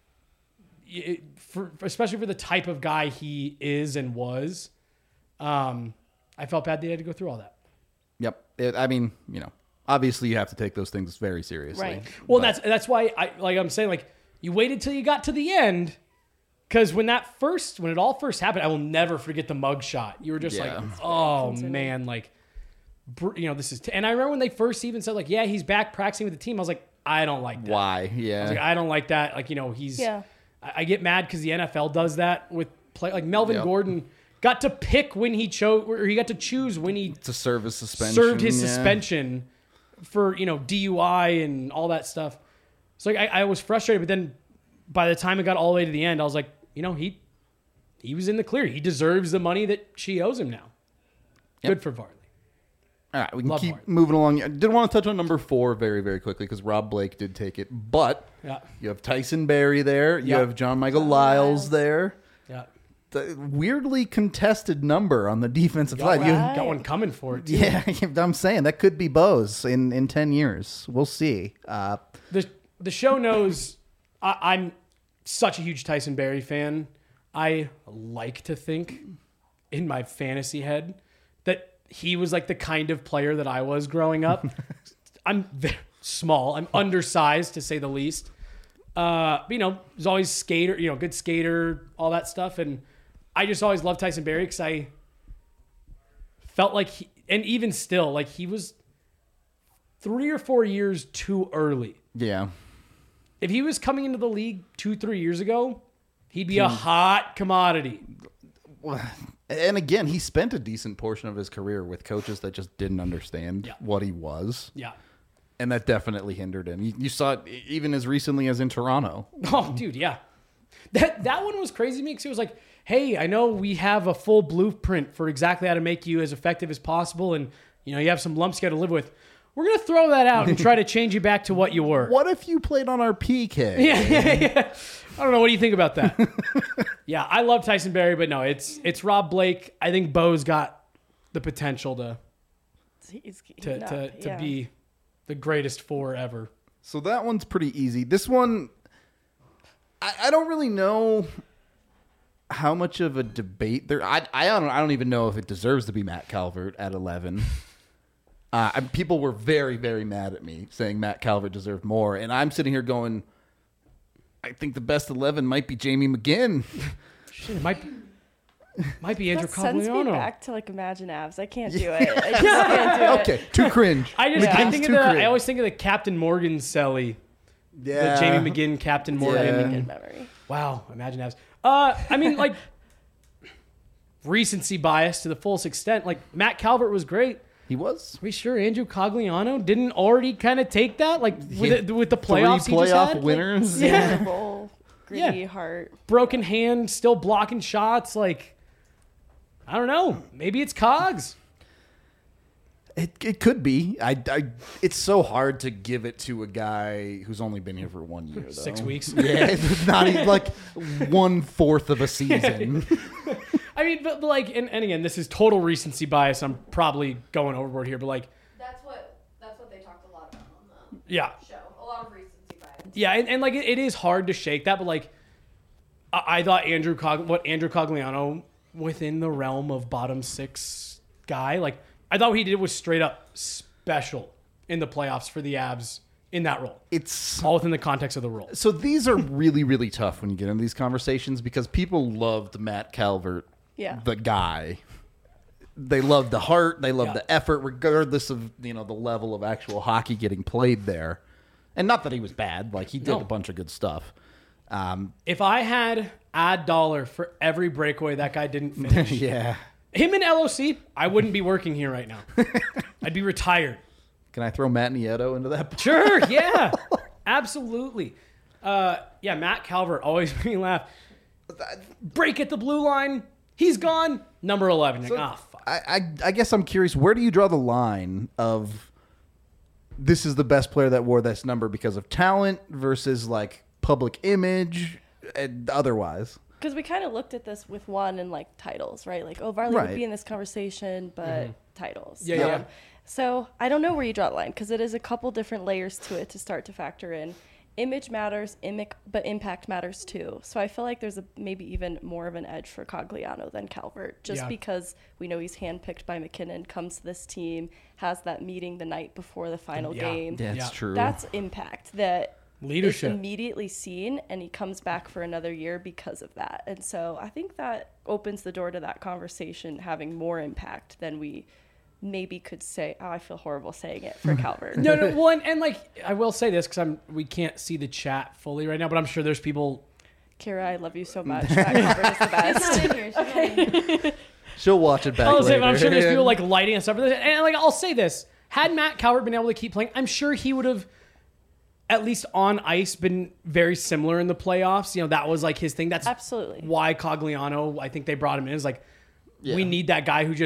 it, for, especially for the type of guy he is and was, um, I felt bad that he had to go through all that. Yep. It, I mean, you know, obviously you have to take those things very seriously. Right. Well, But- that's that's why I like I'm saying like you waited till you got to the end, because when that first when it all first happened, I will never forget the mug shot. You were just Yeah. like, oh man, like br- you know this is. T-. And I remember when they first even said like, yeah, he's back practicing with the team. I was like, I don't like that. Why? I Yeah. was like, I don't like that. Like you know he's. Yeah. I, I get mad because the N F L does that with play like Melvin Yep. Gordon got to pick when he chose or he got to choose when he to serve his suspension. served his yeah. suspension for, you know, D U I and all that stuff. So like, I, I was frustrated, but then by the time it got all the way to the end, I was like, you know, he he was in the clear. He deserves the money that she owes him now. Good for Varley. All right, we can Love keep Varley. moving along. I did want to touch on number four very, very quickly because Rob Blake did take it. But Yeah. you have Tyson Berry there. You Yeah. have John Michael John Lyles Lyles. there. Yeah. The weirdly contested number on the defensive Got, side. You- Right. got one coming for it. Too. yeah, I'm saying that could be Bose in, in ten years. We'll see. Uh, The the show knows I, I'm such a huge Tyson Berry fan. I like to think in my fantasy head that he was like the kind of player that I was growing up. I'm very small. I'm undersized to say the least. Uh, but, you know, he's always skater, you know, good skater, all that stuff. And I just always loved Tyson Berry because I felt like, he, and even still, like he was three or four years too early. yeah. If he was coming into the league two, three years ago, he'd be a hot commodity. And again, he spent a decent portion of his career with coaches that just didn't understand Yeah. what he was. Yeah. And that definitely hindered him. You, you saw it e- even as recently as in Toronto. Oh, dude, yeah. That that one was crazy to me because it was like, hey, I know we have a full blueprint for exactly how to make you as effective as possible, and you know you have some lumps you got to live with. We're gonna throw that out and try to change you back to what you were. What if you played on our P K? Yeah, yeah, yeah. I don't know. What do you think about that? Yeah, I love Tyson Berry, but no, it's it's Rob Blake. I think Bo's got the potential to He's, to no, to, to yeah. be the greatest four ever. So that one's pretty easy. This one, I, I don't really know how much of a debate there. I I don't I don't even know if it deserves to be Matt Calvert at eleven. Uh, and people were very very mad at me saying Matt Calvert deserved more, and I'm sitting here going, I think the best eleven might be Jamie McGinn. Shit, it might be, might be Andrew That sends me Cogliano. back to like Imagine Avs. I can't do it. I just can't do it. Okay, too cringe. I just I McGinn's think of too the cringe. I always think of the Captain Morgan Selly, yeah. the Jamie McGinn Captain Morgan. Yeah. Good memory. Wow, imagine that. Uh, I mean, like recency bias to the fullest extent. Like Matt Calvert was great. He was. Are we sure Andrew Cogliano didn't already kind of take that? Like with, Yeah. the, with the Three playoffs he just playoff had? winners. Yeah. Roll, Yeah. gritty heart. Broken hand, still blocking shots. Like I don't know. Maybe it's Cogs. It, it could be. I, I, it's so hard to give it to a guy who's only been here for one year, though. Six weeks. Yeah, it's not even like one fourth of a season. I mean, but, but like, and, and again, this is total recency bias. I'm probably going overboard here, but like, That's what that's what they talked a lot about on yeah, the show. A lot of recency bias. yeah, and, and like, it, it is hard to shake that, but like, I, I thought Andrew Cog, what Andrew Cogliano within the realm of bottom six guy, like, I thought what he did was straight up special in the playoffs for the Avs in that role, It's all within the context of the role. so these are really really tough when you get into these conversations because people loved Matt Calvert, Yeah. the guy. They loved the heart. They loved Yeah. the effort, regardless of you know the level of actual hockey getting played there. And not that he was bad. Like he did No. a bunch of good stuff. Um, If I had a dollar for every breakaway that guy didn't finish, yeah. him in L O C, I wouldn't be working here right now. I'd be retired. Can I throw Matt Nieto into that? Sure, yeah, absolutely. Uh, yeah, Matt Calvert always made me laugh. Break at the blue line, he's gone. Number eleven. You're like, ah, fuck. I, I I guess I'm curious. Where do you draw the line of this is the best player that wore this number because of talent versus like public image and otherwise? Because we kind of looked at this with one and like titles, right? Like, oh, Varley Right. would be in this conversation, but titles. Yeah, yeah. So I don't know where you draw the line because it is a couple different layers to it to start to factor in. Image matters, imic, but impact matters too. So I feel like there's a maybe even more of an edge for Cogliano than Calvert, just Yeah. because we know he's handpicked by McKinnon, comes to this team, has that meeting the night before the final Yeah. game. That's Yeah. true. That's impact that Leadership. is immediately seen, and he comes back for another year because of that. And so I think that opens the door to that conversation having more impact than we maybe could say. Oh, I feel horrible saying it for Calvert. No, no. Well, and, and like I will say this because I'm we can't see the chat fully right now, but I'm sure there's people. Kira, I love you so much. That Calvert is the She's best. not in here. She's not in here. She'll watch it back I'll say, later. but I'm sure there's people like lighting us up for this. And like I'll say this: had Matt Calvert been able to keep playing, I'm sure he would have. At least on ice, been very similar in the playoffs. You know, that was like his thing. That's Absolutely. why Cogliano, I think they brought him in, is like, Yeah. we need that guy who just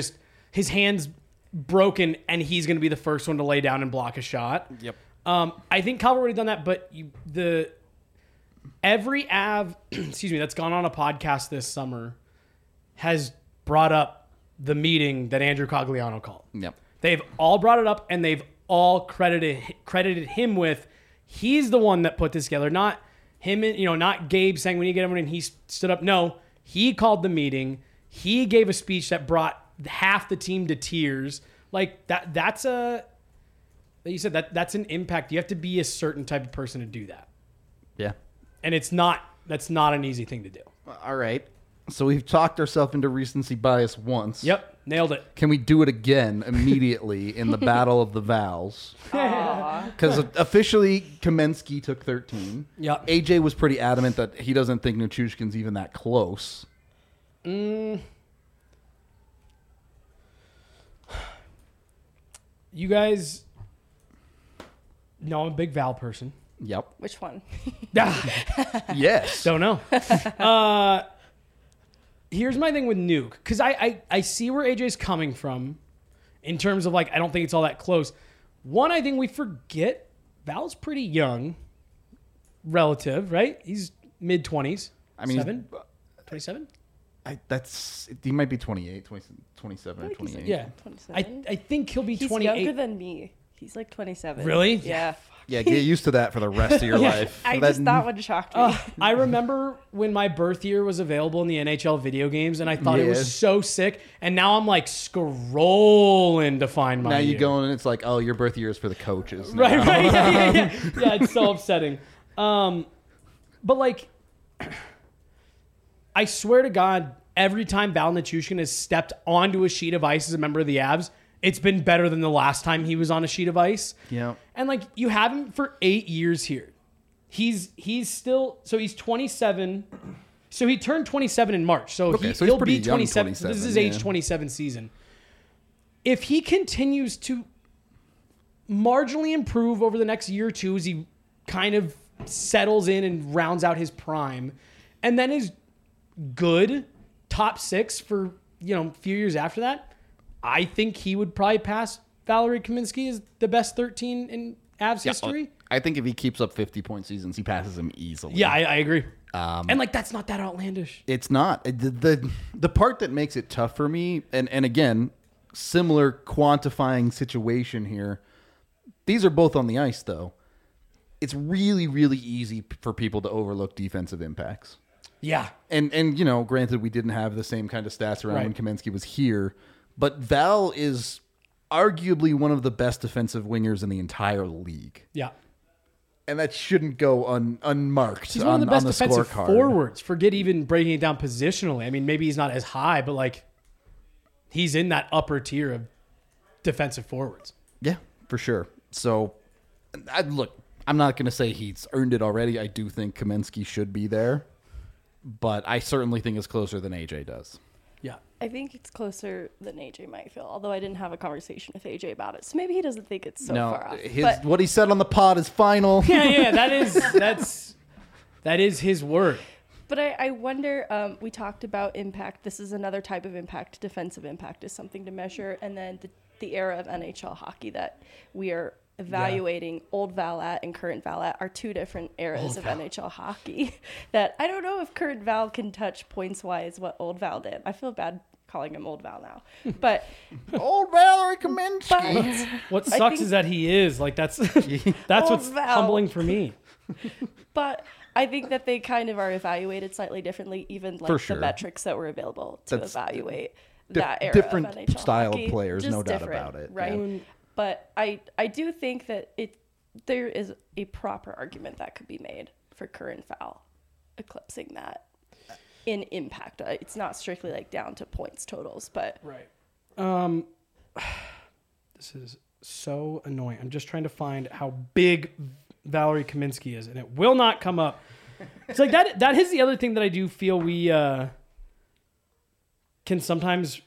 his hand's broken and he's going to be the first one to lay down and block a shot. Yep. Um, I think Calvert would have done that, but you, the every Av, excuse me, that's gone on a podcast this summer has brought up the meeting that Andrew Cogliano called. Yep. They've all brought it up and they've all credited credited him with he's the one that put this together, not him. You know, not Gabe saying we need to get everyone in. He stood up. No, he called the meeting. He gave a speech that brought half the team to tears. Like that. That's a. You said that that's an impact. You have to be a certain type of person to do that, Yeah. and it's not. That's not an easy thing to do. All right. So we've talked ourselves into recency bias once. Yep, nailed it. Can we do it again immediately in the Battle of the Vals? Because officially, Kamensky took thirteen. Yep. A J was pretty adamant that he doesn't think Nichushkin's even that close. Mm. You guys know I'm a big Val person. Yep. Which one? Yes. Don't know. uh, here's my thing with Nuke. Because I, I, I see where A J's coming from in terms of, like, I don't think it's all that close. One, I think we forget Val's pretty young relative, right? He's mid-twenties. I mean, he's- Seven? twenty-seven? I, that's he might be twenty-eight, twenty, twenty-seven, I think he's twenty-eight. Yeah. I, twenty-seven. I think he'll be He's twenty-eight. younger than me. He's like twenty-seven. Really? Yeah. Yeah, get used to that for the rest of your life. I That- just that one shocked me. Uh, I remember when my birth year was available in the N H L video games, and I thought it Yes. was so sick. And now I'm like scrolling to find my now you year. go and it's like, oh, your birth year is for the coaches. Right, now. right. Yeah, yeah, yeah. Yeah, it's so upsetting. Um, but like, I swear to God, every time Val Nichushkin has stepped onto a sheet of ice as a member of the Avs, it's been better than the last time he was on a sheet of ice. Yeah. And like, you have him for eight years here. He's he's still so he's twenty-seven. So he turned twenty-seven in March. So, Okay, he, so he's he'll pretty be young, twenty-seven. So this is his twenty-seven, age yeah. twenty-seven season. If he continues to marginally improve over the next year or two as he kind of settles in and rounds out his prime, and then is good top six for, you know, a few years after that, I think he would probably pass Valerie Kaminsky as the best thirteen in Avs Yeah, history. I think if he keeps up fifty point seasons, he passes him easily. Yeah, I, I agree. Um, And like, that's not that outlandish. It's not. The, the the part that makes it tough for me, and, and again, similar quantifying situation here. These are both on the ice, though. It's really, really easy p- for people to overlook defensive impacts. Yeah. And, and you know, granted, we didn't have the same kind of stats around Right. when Kamensky was here, but Val is arguably one of the best defensive wingers in the entire league. Yeah. And that shouldn't go un, unmarked He's on, one of the best on the defensive scorecard. forwards. Forget even breaking it down positionally. I mean, maybe he's not as high, but like, he's in that upper tier of defensive forwards. Yeah, for sure. So, I, look, I'm not going to say he's earned it already. I do think Kamensky should be there, but I certainly think it's closer than A J does. Yeah. I think it's closer than A J might feel, although I didn't have a conversation with A J about it. So maybe he doesn't think it's so no, far off. his But what he said on the pod is final. Yeah, yeah, that is that's that is his word. But I, I wonder, um, we talked about impact. This is another type of impact. Defensive impact is something to measure. And then the, the era of N H L hockey that we are evaluating old Val at and current Val at are two different eras Old of Val. N H L hockey that I don't know if current Val can touch points-wise what old Val did. I feel bad calling him old Val now. But, Old Valerie Kamensky. but, What I sucks think- is that he is like that's that's Old what's Val. humbling for me. but I think that they kind of are evaluated slightly differently, even like For sure. the metrics that were available to That's evaluate dif- that era different of N H L style of hockey. players, Just no doubt different, about it, right? yeah. But I I do think that it there is a proper argument that could be made for current Val eclipsing that in impact. Uh, It's not strictly like down to points totals, but Right. Um this is so annoying. I'm just trying to find how big Valerie Kaminsky is, and it will not come up. It's like that that is the other thing that I do feel we uh can sometimes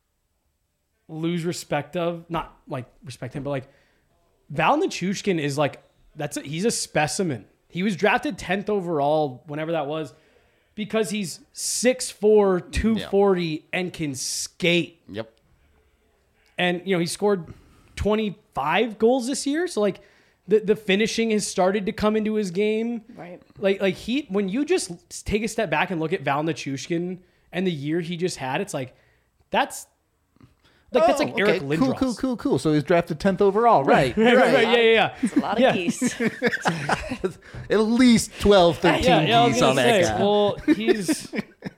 lose respect of. Not like respect him, but like Val Nichushkin is like that's a, he's a specimen. He was drafted tenth overall whenever that was because he's six four, two forty and can skate. Yep. And, you know, he scored twenty-five goals this year. So, like, the, the finishing has started to come into his game. Right. Like, like he, when you just take a step back and look at Val Nichushkin and the year he just had, it's like, that's, like, that's like Oh, Eric okay. Lindros. Cool, cool, cool, cool. So he's drafted tenth overall. Right. Right, right, right. Yeah, yeah, yeah. It's a lot of Yeah. geese. At least twelve, thirteen Yeah, yeah, I was geese gonna on that say, guy. well, he's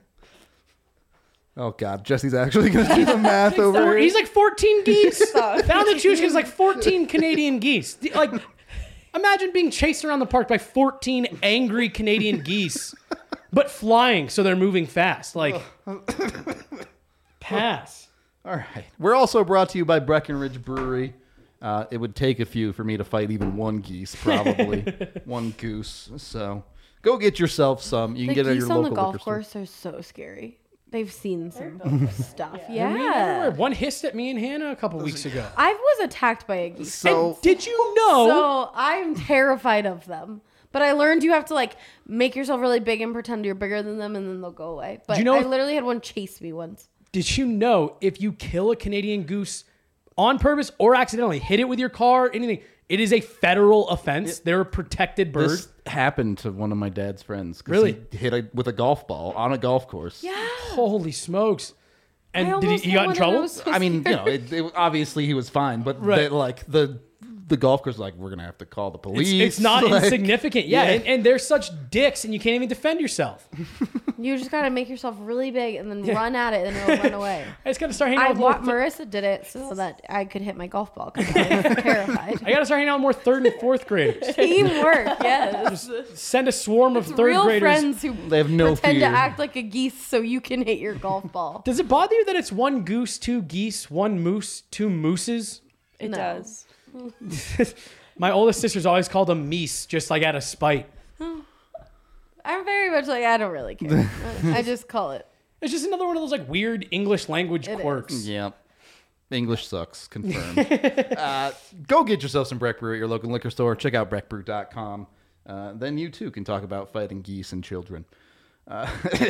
Oh, God. Jesse's actually going to do the math over four, here. he's like fourteen geese. Stop. Val Nichushkin's like fourteen Canadian geese. The- Like, imagine being chased around the park by fourteen angry Canadian geese, but flying, so they're moving fast. Like, pass. All right. We're also brought to you by Breckenridge Brewery. Uh, it would take a few for me to fight even one geese, probably. One goose. So go get yourself some. You can The get it at your geese on local the golf liquor store. course are so scary. They've seen some stuff. Yeah. One hissed at me and Hannah a couple weeks ago. I was attacked by a geese. So And did you know? So I'm terrified of them. But I learned you have to like make yourself really big and pretend you're bigger than them, and then they'll go away. But you know I if- literally had one chase me once. Did you know if you kill a Canadian goose on purpose or accidentally, hit it with your car, anything, it is a federal offense. They're a protected bird. this happened to one of my dad's friends. 'Cause Really? He hit a, with a golf ball on a golf course. Yeah. Holy smokes! I And did he, almost he had got in one and trouble? I was so I mean, you scared. know, it, it, obviously he was fine, but Right. they, like the the golf course, like we're gonna have to call the It's, police. it's not like, insignificant. Yeah, yeah. And, and they're such dicks, and you can't even defend yourself. You just gotta make yourself really big and then run at it, and it'll run away. I just got to start hanging I out with more. want Marissa did it so that I could hit my golf ball because I was terrified. I got to start hanging out with more third and fourth graders. Teamwork, yes. Send a swarm of third Real graders. friends who They have no pretend fear. to act like a geese so you can hit your golf ball. Does it bother you that it's one goose, two geese, one moose, two mooses? It No. does. My oldest sister's always called them meese, just like out of spite. I'm very much like I don't really care. I just call it. It's just another one of those like weird English language It quirks. Yeah. English sucks. Confirmed. uh, go get yourself some Breck Brew at your local liquor store. Check out breck brew dot com. Uh, then you too can talk about fighting geese and children. Uh,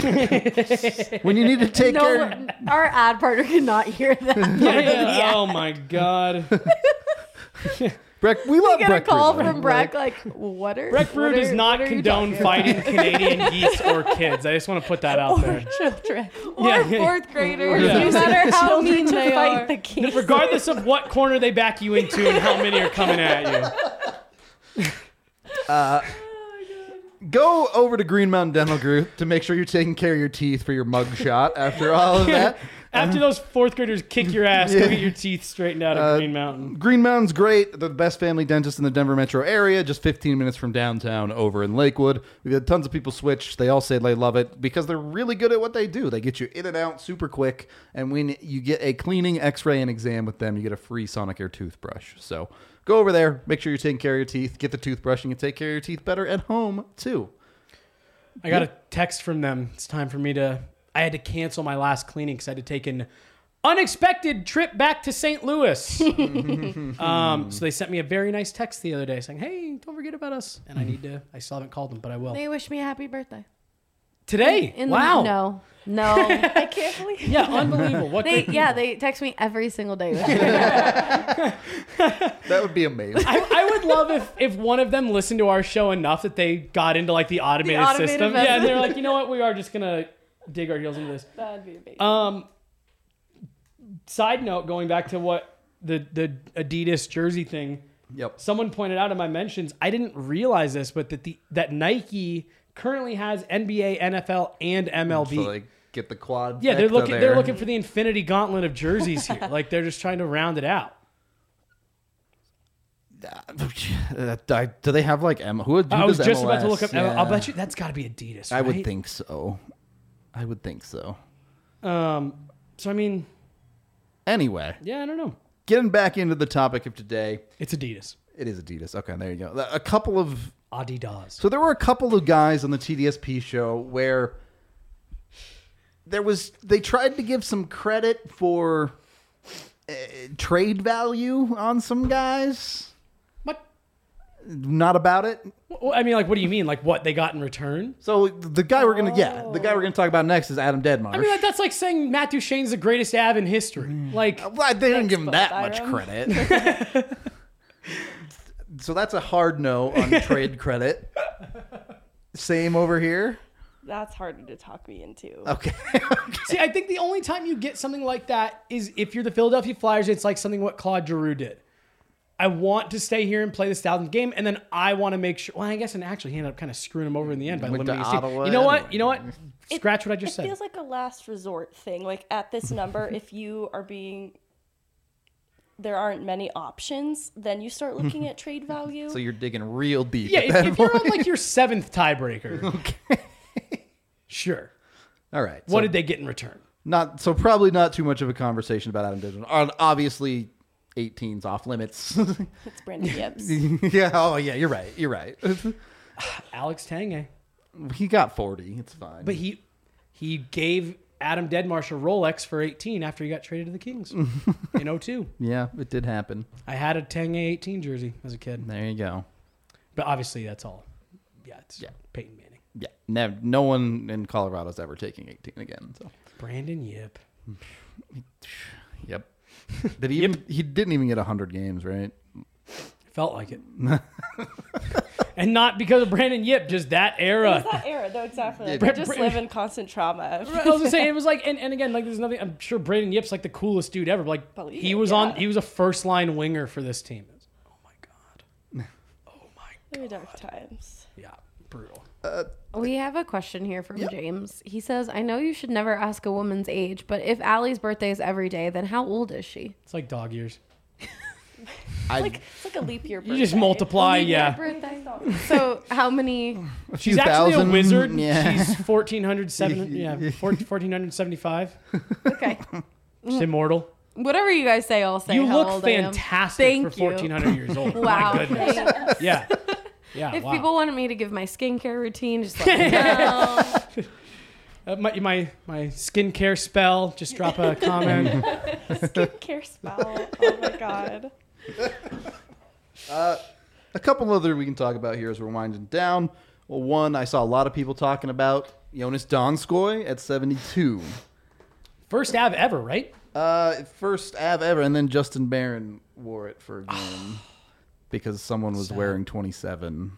when you need to take No, care. our ad partner cannot hear that. Yeah, yeah. Oh my god. Breck, we love Get a Breck Brew, call though. from Breck like, what are Breck Brew what does are- not what are you condone talking fighting Canadian geese or kids. I just want to put that out there. Children. about? Or Yeah, yeah. fourth graders, Yeah. no matter how Children mean to they fight are. the geese. Regardless of what corner they back you into and how many are coming at you. Go over to Green Mountain Dental Group to make sure you're taking care of your teeth for your mug shot after all of that. After those fourth graders kick your ass, go get your teeth straightened out at Green Mountain. Green Mountain's great. They're the best family dentist in the Denver metro area, just fifteen minutes from downtown over in Lakewood. We've had tons of people switch. They all say they love it because they're really good at what they do. They get you in and out super quick. And when you get a cleaning, x-ray, and exam with them, you get a free Sonicare toothbrush. So go over there. Make sure you're taking care of your teeth. Get the toothbrush and you can take care of your teeth better at home, too. I got a text from them. It's time for me to. I had to cancel my last cleaning because I had to take an unexpected trip back to Saint Louis. um, so they sent me a very nice text the other day saying, "Hey, don't forget about us." And I need to. I still haven't called them, but I will They wish me a happy birthday. today. In wow. The, no, no. I can't believe Yeah, unbelievable. What? They, the- yeah, they text me every single day. That would be amazing. I, I would love if if one of them listened to our show enough that they got into like the automated, automated system. message. Yeah, and they're like, you know what? We are just gonna dig our heels into this. that'd be amazing. Um, side note, going back to what the the Adidas jersey thing, Yep. someone pointed out in my mentions. I didn't realize this, but that the that Nike currently has N B A, N F L, and M L B. So they get the quad. yeah, they're vecta looking. there. They're looking for the Infinity Gauntlet of jerseys here. Like they're just trying to round it out. Uh, I- do they have like M? Who, who I was does just M L S? about to look up. Yeah. I'll bet you that's got to be Adidas. I would right? think so. I would think so. Um. So I mean, Anyway, yeah, I don't know. getting back into the topic of today, It's Adidas. it is Adidas. Okay, there you go. A couple of Adidas. so there were a couple of guys on the T D S P show where there was they tried to give some credit for uh, trade value on some guys. What? not about it. Well, I mean, like, what do you mean? Like, what they got in return? So the guy we're gonna yeah, the guy we're gonna talk about next is Adam Deadmarsh. I mean, like, that's like saying Matt Duchene's the greatest Av in history. Like, well, they didn't give him that Thanks, much Byram. credit. So that's a hard no on trade credit. Same over here. That's harder to talk me into. Okay. see, I think the only time you get something like that is if you're the Philadelphia Flyers. It's like something what Claude Giroux did. I want to stay here and play this thousandth game, and then I want to make sure. Well, I guess, and actually, he ended up kind of screwing him over in the end by Went to limiting his team. Ottawa You know what? anyway. You know what? It- Scratch what I just it said. feels like a last resort thing. Like at this number, if you are being, there aren't many options, then you start looking at trade value. So you're digging real deep. Yeah, at if, that if you're on point. like your seventh tiebreaker, Okay. sure. All right. What so did they get in return? Not so probably not too much of a conversation about Adam Deadmarsh. Obviously, eighteen's off limits. It's Brandon Gibbs. yeah. Oh yeah. You're right. You're right. Alex Tanguay. He got forty. It's fine. But he he gave Adam Deadmarsh a Rolex for eighteen after he got traded to the Kings in oh two. yeah, it did happen. I had a Tanguay eighteen jersey as a kid. There you go. But obviously that's all. Yeah, it's Yeah. Peyton Manning. Yeah. Never, no one in Colorado's ever taking eighteen again. So. Brandon Yip. Yep. Did he? Even, he didn't even get hundred games, right? Felt like it. And not because of Brandon Yip, just that It era. was that era, though, exactly. Like, Bra- I just Bra- live in constant trauma. I was gonna say it was like, and, and again, like there's nothing. I'm sure Brandon Yip's like the coolest dude ever. But like Believe he it, was yeah. on. He was a first line winger for this team. It was- oh my god. Oh my. Very dark times. Yeah, brutal. We have a question here from James. He says, I know you should never ask a woman's age, but if Allie's birthday is every day, then how old is she? It's like dog years. I, Like it's like a leap year. You just birthday. multiply. Leap year Yeah. birthday. So how many? She's few actually a thousand, wizard. yeah. She's fourteen hundred seven. Yeah, fourteen seventy five. Okay. She's immortal. Whatever you guys say, I'll say You how look old I am. fantastic Thank for you. fourteen hundred years old. Wow. My goodness. Yeah. Yeah. If wow. people wanted me to give my skincare routine, just let me know. Uh, my, my my skincare spell. Just drop a comment. Skincare spell. Oh my god. a couple other we can talk about here as we're winding down. Well, one I saw a lot of people talking about Jonas Donskoy at seventy-two. First Av ever, right? Uh, first Av ever, and then Justin Barron wore it for a game because someone was Sad. wearing twenty-seven.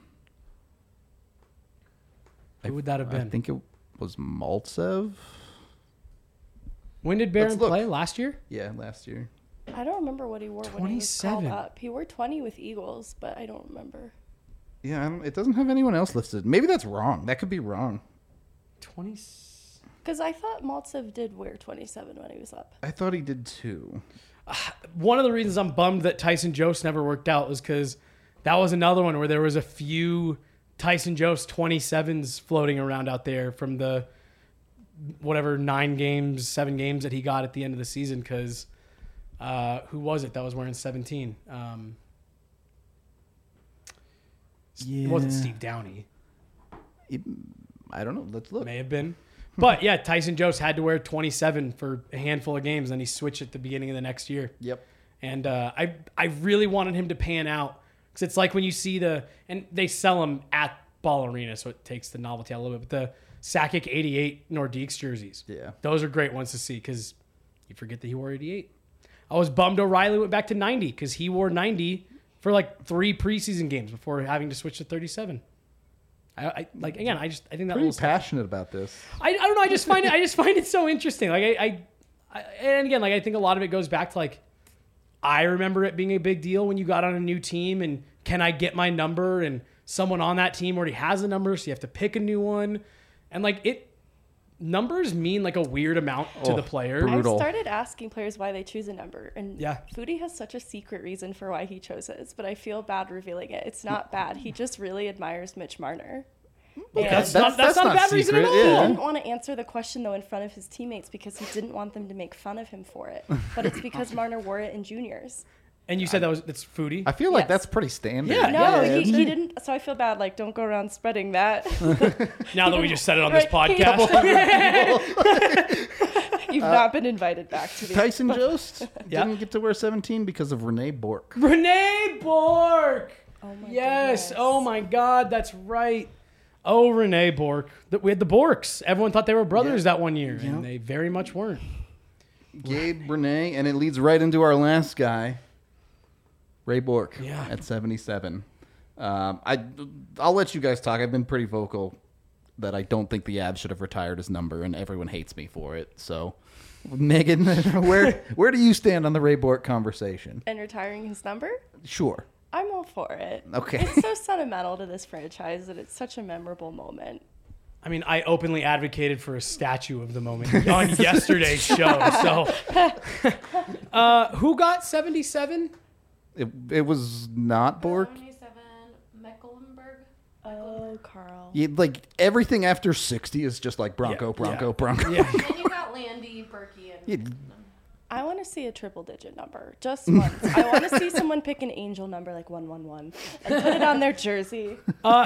Who would that have I been? think it was Maltsev. When did Barron Let's look. play? Last year? Yeah, last year. I don't remember what he wore when he was called twenty-seven. up. He wore twenty with Eagles, but I don't remember. Yeah, I don't, it doesn't have anyone else listed. Maybe that's wrong. That could be wrong. twenty. Because I thought Maltsev did wear twenty-seven when he was up. I thought he did too. One of the reasons I'm bummed that Tyson Jost never worked out was because that was another one where there was a few Tyson Jost twenty-sevens floating around out there from the whatever nine games, seven games that he got at the end of the season. Because uh, who was it that was wearing seventeen? Um, It wasn't Steve Downey. It- I don't know. Let's look. May have been. But yeah, Tyson Jost had to wear twenty-seven for a handful of games, then he switched at the beginning of the next year. Yep. And uh, I I really wanted him to pan out because it's like when you see the and they sell them at Ball Arena, so it takes the novelty out a little bit. But the Sakic eighty-eight Nordiques jerseys, Yeah. those are great ones to see because you forget that he wore eighty-eight. I was bummed O'Reilly went back to ninety because he wore ninety for like three preseason games before having to switch to thirty-seven. I, I like again. I just I think that Pretty little stuff- passionate about this. I, I don't know. I just find it. I just find it so interesting. Like I, I, I, and again, like I think a lot of it goes back to like I remember it being a big deal when you got on a new team and can I get my number? And someone on that team already has a number, so you have to pick a new one. And like it, numbers mean like a weird amount to Oh, the player. brutal. Brutal. I've started asking players why they choose a number, and Yeah. Foodie has such a secret reason for why he chose it, but I feel bad revealing it. It's not bad. He just really admires Mitch Marner. And That's, not that's, not a bad reason at secret, all. he yeah. didn't want to answer the question though in front of his teammates because he didn't want them to make fun of him for it. But it's because Marner wore it in juniors. And you said that was that's foodie. I feel like Yes. that's pretty standard. Yeah, No, yeah, he, he didn't. So I feel bad. Like, don't go around spreading that. now that we just said it on this Right, he- podcast. You've not been invited back to the. Tyson Jost Yeah. didn't get to wear seventeen because of Renee Bork. Renee Bork. Oh my Yes. Yes. Oh my God, that's right. Oh, Renee Bork. Th- We had the Borks. Everyone thought they were brothers that one year, and they very much weren't. Gabe, Renee, and it leads right into our last guy, Ray Bork, Yeah. at seventy-seven. Um, I, I'll let you guys talk. I've been pretty vocal that I don't think the Avs should have retired his number, and everyone hates me for it. So, Megan, where where do you stand on the Ray Bork conversation? And retiring his number? Sure. I'm all for it. Okay. It's so sentimental to this franchise that it's such a memorable moment. I mean, I openly advocated for a statue of the moment on yesterday's show. So, uh, who got seventy-seven? It, it was not Bork. seventy-seven, Mecklenburg. Oh, Carl. Yeah, like everything after sixty is just like Bronco, Yeah, Bronco, yeah. Bronco. Yeah. Then you got Landy, Berkey, and Yeah. I want to see a triple digit number just once. I want to see someone pick an angel number like one one one and put it on their jersey. Uh,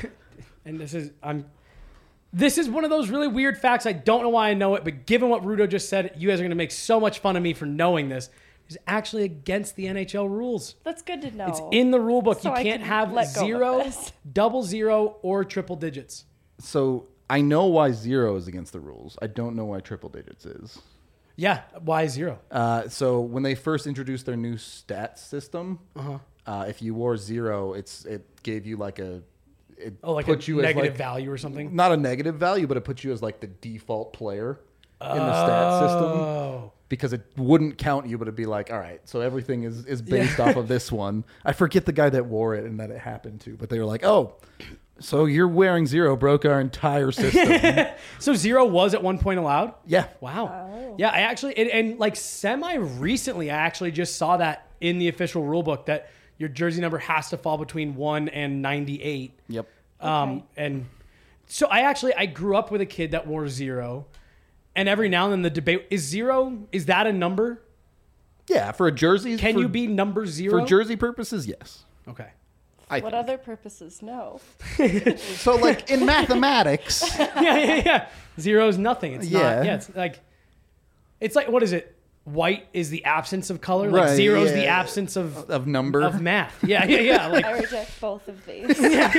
and this is I'm. This is one of those really weird facts. I don't know why I know it, but given what Rudo just said, you guys are going to make so much fun of me for knowing this. It's actually against the N H L rules. That's good to know. It's in the rule book. So you I can't can have let go of zero, this. double zero, or triple digits. So I know why zero is against the rules. I don't know why triple digits is. Yeah, why zero? Uh, so when they first introduced their new stats system, Uh-huh. uh, if you wore zero, it's it gave you like a it Oh, like put a you negative as like, value or something? not a negative value, but it puts you as like the default player in the stat system Oh. because it wouldn't count you, but it'd be like, all right, so everything is is based off of this one. I forget the guy that wore it and that it happened to, but they were like, oh. So you're wearing zero broke our entire system. So zero was at one point allowed? Yeah. Wow. Oh. Yeah, I actually, and, and like semi recently, I actually just saw that in the official rule book that your jersey number has to fall between one and ninety-eight. Yep. Um, Okay. And so I actually, I grew up with a kid that wore zero. And every now and then the debate is zero, is that a number? Yeah, for a jersey. Can for, you be number zero? for jersey purposes? Yes. Okay. I What think. other purposes? No. So like in mathematics, yeah, yeah, yeah. Zero is nothing. It's Yeah. not. Yeah, it's like, it's like, what is it? White is the absence of color. Like Right, zero is the yeah. absence of of number. of math. Yeah, yeah, yeah. Like, I reject both of these.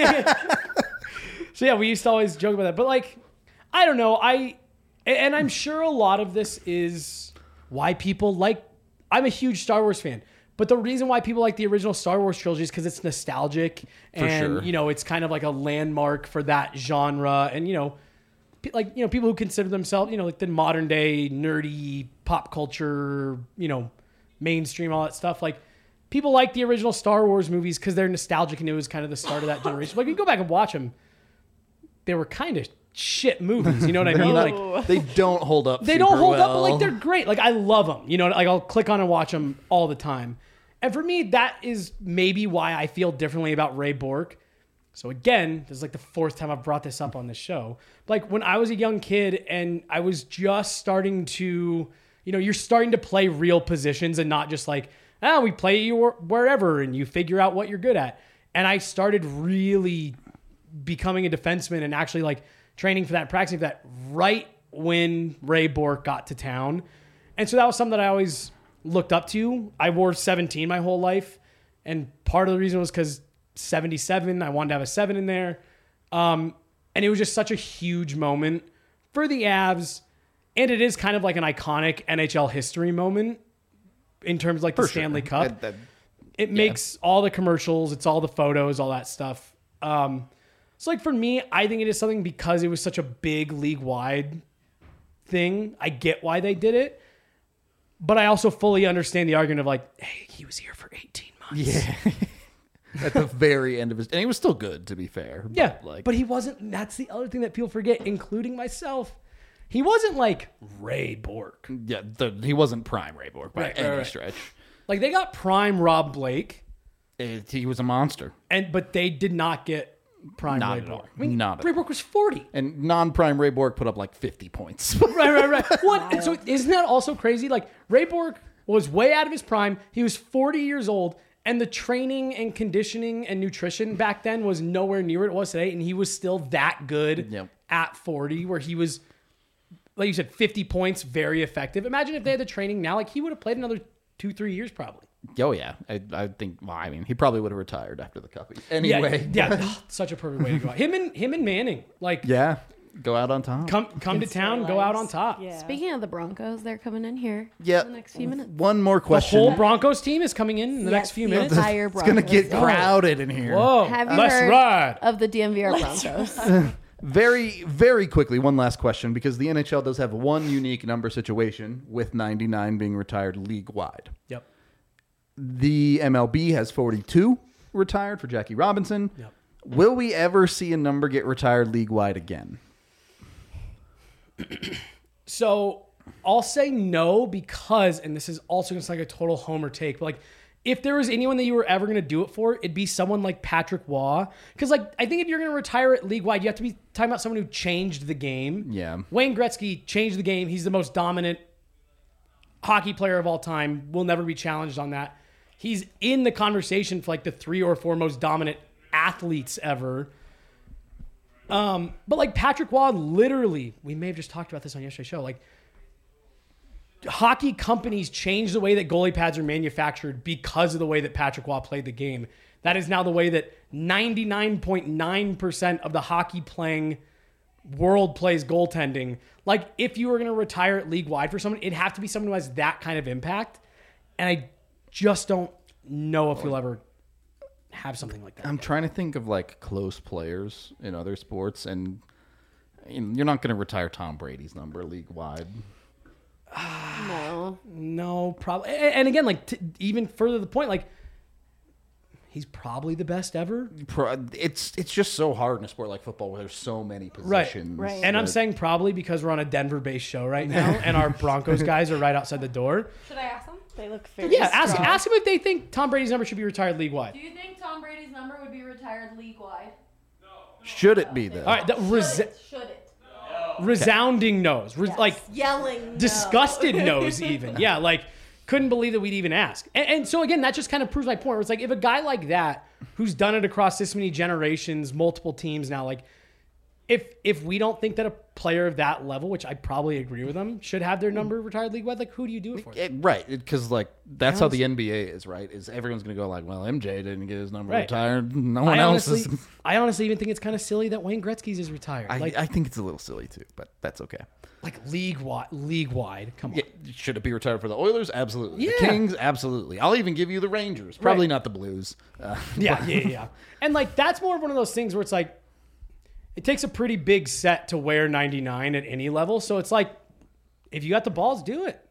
so yeah, we used to always joke about that. But like, I don't know. I and I'm sure a lot of this is why people like. I'm a huge Star Wars fan, but the reason why people like the original Star Wars trilogy is because it's nostalgic and sure. you know it's kind of like a landmark for that genre, and you know. pe- Like, you know, people who consider themselves, you know, like the modern day nerdy pop culture, you know, mainstream, all that stuff. Like, people like the original Star Wars movies because they're nostalgic and it was kind of the start of that generation. Like, you go back and watch them, they were kind of shit movies. You know what I They're mean? not- Like, they don't hold up. they super don't hold up, but well. like they're great. Like, I love them. You know, like I'll click on and watch them all the time. And for me, that is maybe why I feel differently about Ray Bork. So again, this is like the fourth time I've brought this up on this show. Like when I was a young kid and I was just starting to, you know, you're starting to play real positions and not just like, ah, we play you wherever and you figure out what you're good at. And I started really becoming a defenseman and actually like training for that, and practicing for that right when Ray Bork got to town. And so that was something that I always looked up to. I wore seventeen my whole life. And part of the reason was because seventy-seven, I wanted to have a seven in there. Um, and it was just such a huge moment for the Avs. And it is kind of like an iconic N H L history moment in terms of like the For sure. Stanley Cup. That- that- It makes all the commercials, it's all the photos, all that stuff. Um, so like for me, I think it is something because it was such a big league-wide thing. I get why they did it. But I also fully understand the argument of like, hey, he was here for eighteen months. yeah. At the very end of his, and he was still good, to be fair. But Yeah, like, but he wasn't. That's the other thing that people forget, including myself. He wasn't like Ray Bork. yeah, the, he wasn't prime Ray Bork by Right, any right, right. stretch. Like they got prime Rob Blake, It- he was a monster, and but they did not get prime Not Ray at all. Bork. I mean, Not at Ray all. Bork was forty. and non-prime Ray Bork put up like fifty points. Right, right, right. What? And so isn't that also crazy? Like Ray Bork was way out of his prime. He was forty years old, and the training and conditioning and nutrition back then was nowhere near what it was today. And he was still that good Yep. at forty, where he was, like you said, fifty points, very effective. Imagine if they had the training now, like he would have played another two, three years probably. Oh yeah, I, I think. Well, I mean, he probably would have retired after the Cup anyway. Yeah, yeah. Such a perfect way to go out. Him and him and Manning, like, yeah. Go out on top. come come to town, go out on top. Yeah. Speaking of the Broncos, they're coming in here. Yeah. In the next few minutes. One more The question. whole Broncos team is coming in in the Yes, next few the minutes. entire It's gonna Broncos get team. crowded in here. Whoa, Have you let's heard ride. of the D M V R Broncos? Very, very quickly, one last question, because the N H L does have one unique number situation with ninety-nine being retired league-wide. Yep. The M L B has forty-two retired for Jackie Robinson. Yep. Will we ever see a number get retired league-wide again? So I'll say no because, and this is also just like a total homer take, but like if there was anyone that you were ever going to do it for, it'd be someone like Patrick Waugh. Because like I think if you're going to retire it league wide, you have to be talking about someone who changed the game. Yeah. Wayne Gretzky changed the game. He's the most dominant hockey player of all time. Will never be challenged on that. He's in the conversation for like the three or four most dominant athletes ever. Um, but like Patrick Waugh, literally, we may have just talked about this on yesterday's show. Like, hockey companies changed the way that goalie pads are manufactured because of the way that Patrick Waugh played the game. That is now the way that ninety-nine point nine percent of the hockey playing world plays goaltending. Like, if you were going to retire it league wide for someone, it'd have to be someone who has that kind of impact. And I just don't know if you'll ever have something like that. I'm trying to think of like close players in other sports, and you know, you're not going to retire Tom Brady's number league-wide. No. No, probably. And again, like t- even further to the point, like he's probably the best ever. Pro- It's it's just so hard in a sport like football where there's so many positions. Right. And I'm that- saying probably because we're on a Denver-based show right now, and our Broncos guys are right outside the door. Should I ask them? They look very Yeah, ask strong. ask them if they think Tom Brady's number should be retired league wide. Do you think Tom Brady's number would be retired league wide? should it be though? All right, the res- Should it? Should it? resounding no's, Res- like Yelling. No. disgusted no's, even. Yeah, like couldn't believe that we'd even ask. And, and so again, that just kind of proves my point. Where it's like if a guy like that, who's done it across this many generations, multiple teams now, like if if we don't think that a player of that level, which I probably agree with them, should have their number retired league wide, like who do you do it for? It- right, because like that's how the N B A is, right? Is everyone's going to go like, well, M J didn't get his number Right. retired, no one I else honestly, is. I honestly even think it's kind of silly that Wayne Gretzky's is retired. I, like, I think it's a little silly too, but that's okay. like league wide, league wide. Come on. Yeah, should it be retired for the Oilers? Absolutely. The Yeah. Kings? Absolutely. I'll even give you the Rangers. Probably Right. not the Blues. Uh, Yeah, yeah, yeah. And like that's more of one of those things where it's like it takes a pretty big set to wear ninety-nine at any level. So it's like if you got the balls, do it.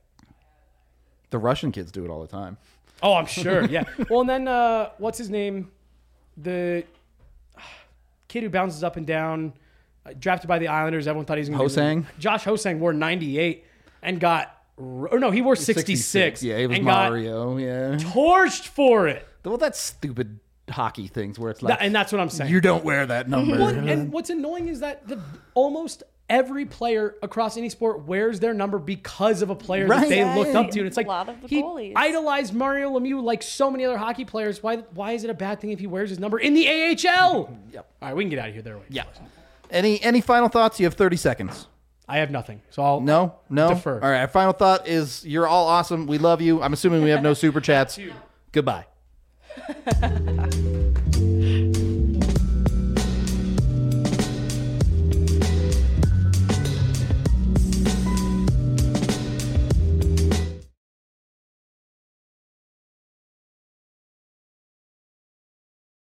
the Russian kids do it all the time. Oh, I'm sure. Yeah. Well, and then uh, what's his name? The uh, kid who bounces up and down, uh, drafted by the Islanders. Everyone thought he was going to Hosang? Josh Hosang wore ninety-eight and got or no, he wore sixty-six. Yeah, it was and got Mario. Yeah. torched for it. Well, that's stupid hockey things where it's like, That- and that's what I'm saying. you don't wear that number. Well, and what's annoying is that the, almost every player across any sport wears their number because of a player Right. that they Yeah, looked up to. And it's a like lot of the he goalies. idolized Mario Lemieux like so many other hockey players. Why why is it a bad thing if he wears his number in the A H L? Yep. All right, we can get out of here. There way. Yeah. Any any final thoughts? You have thirty seconds. I have nothing. So I'll No? No? Defer. All right. Our final thought is you're all awesome. We love you. I'm assuming we have no super chats. Goodbye.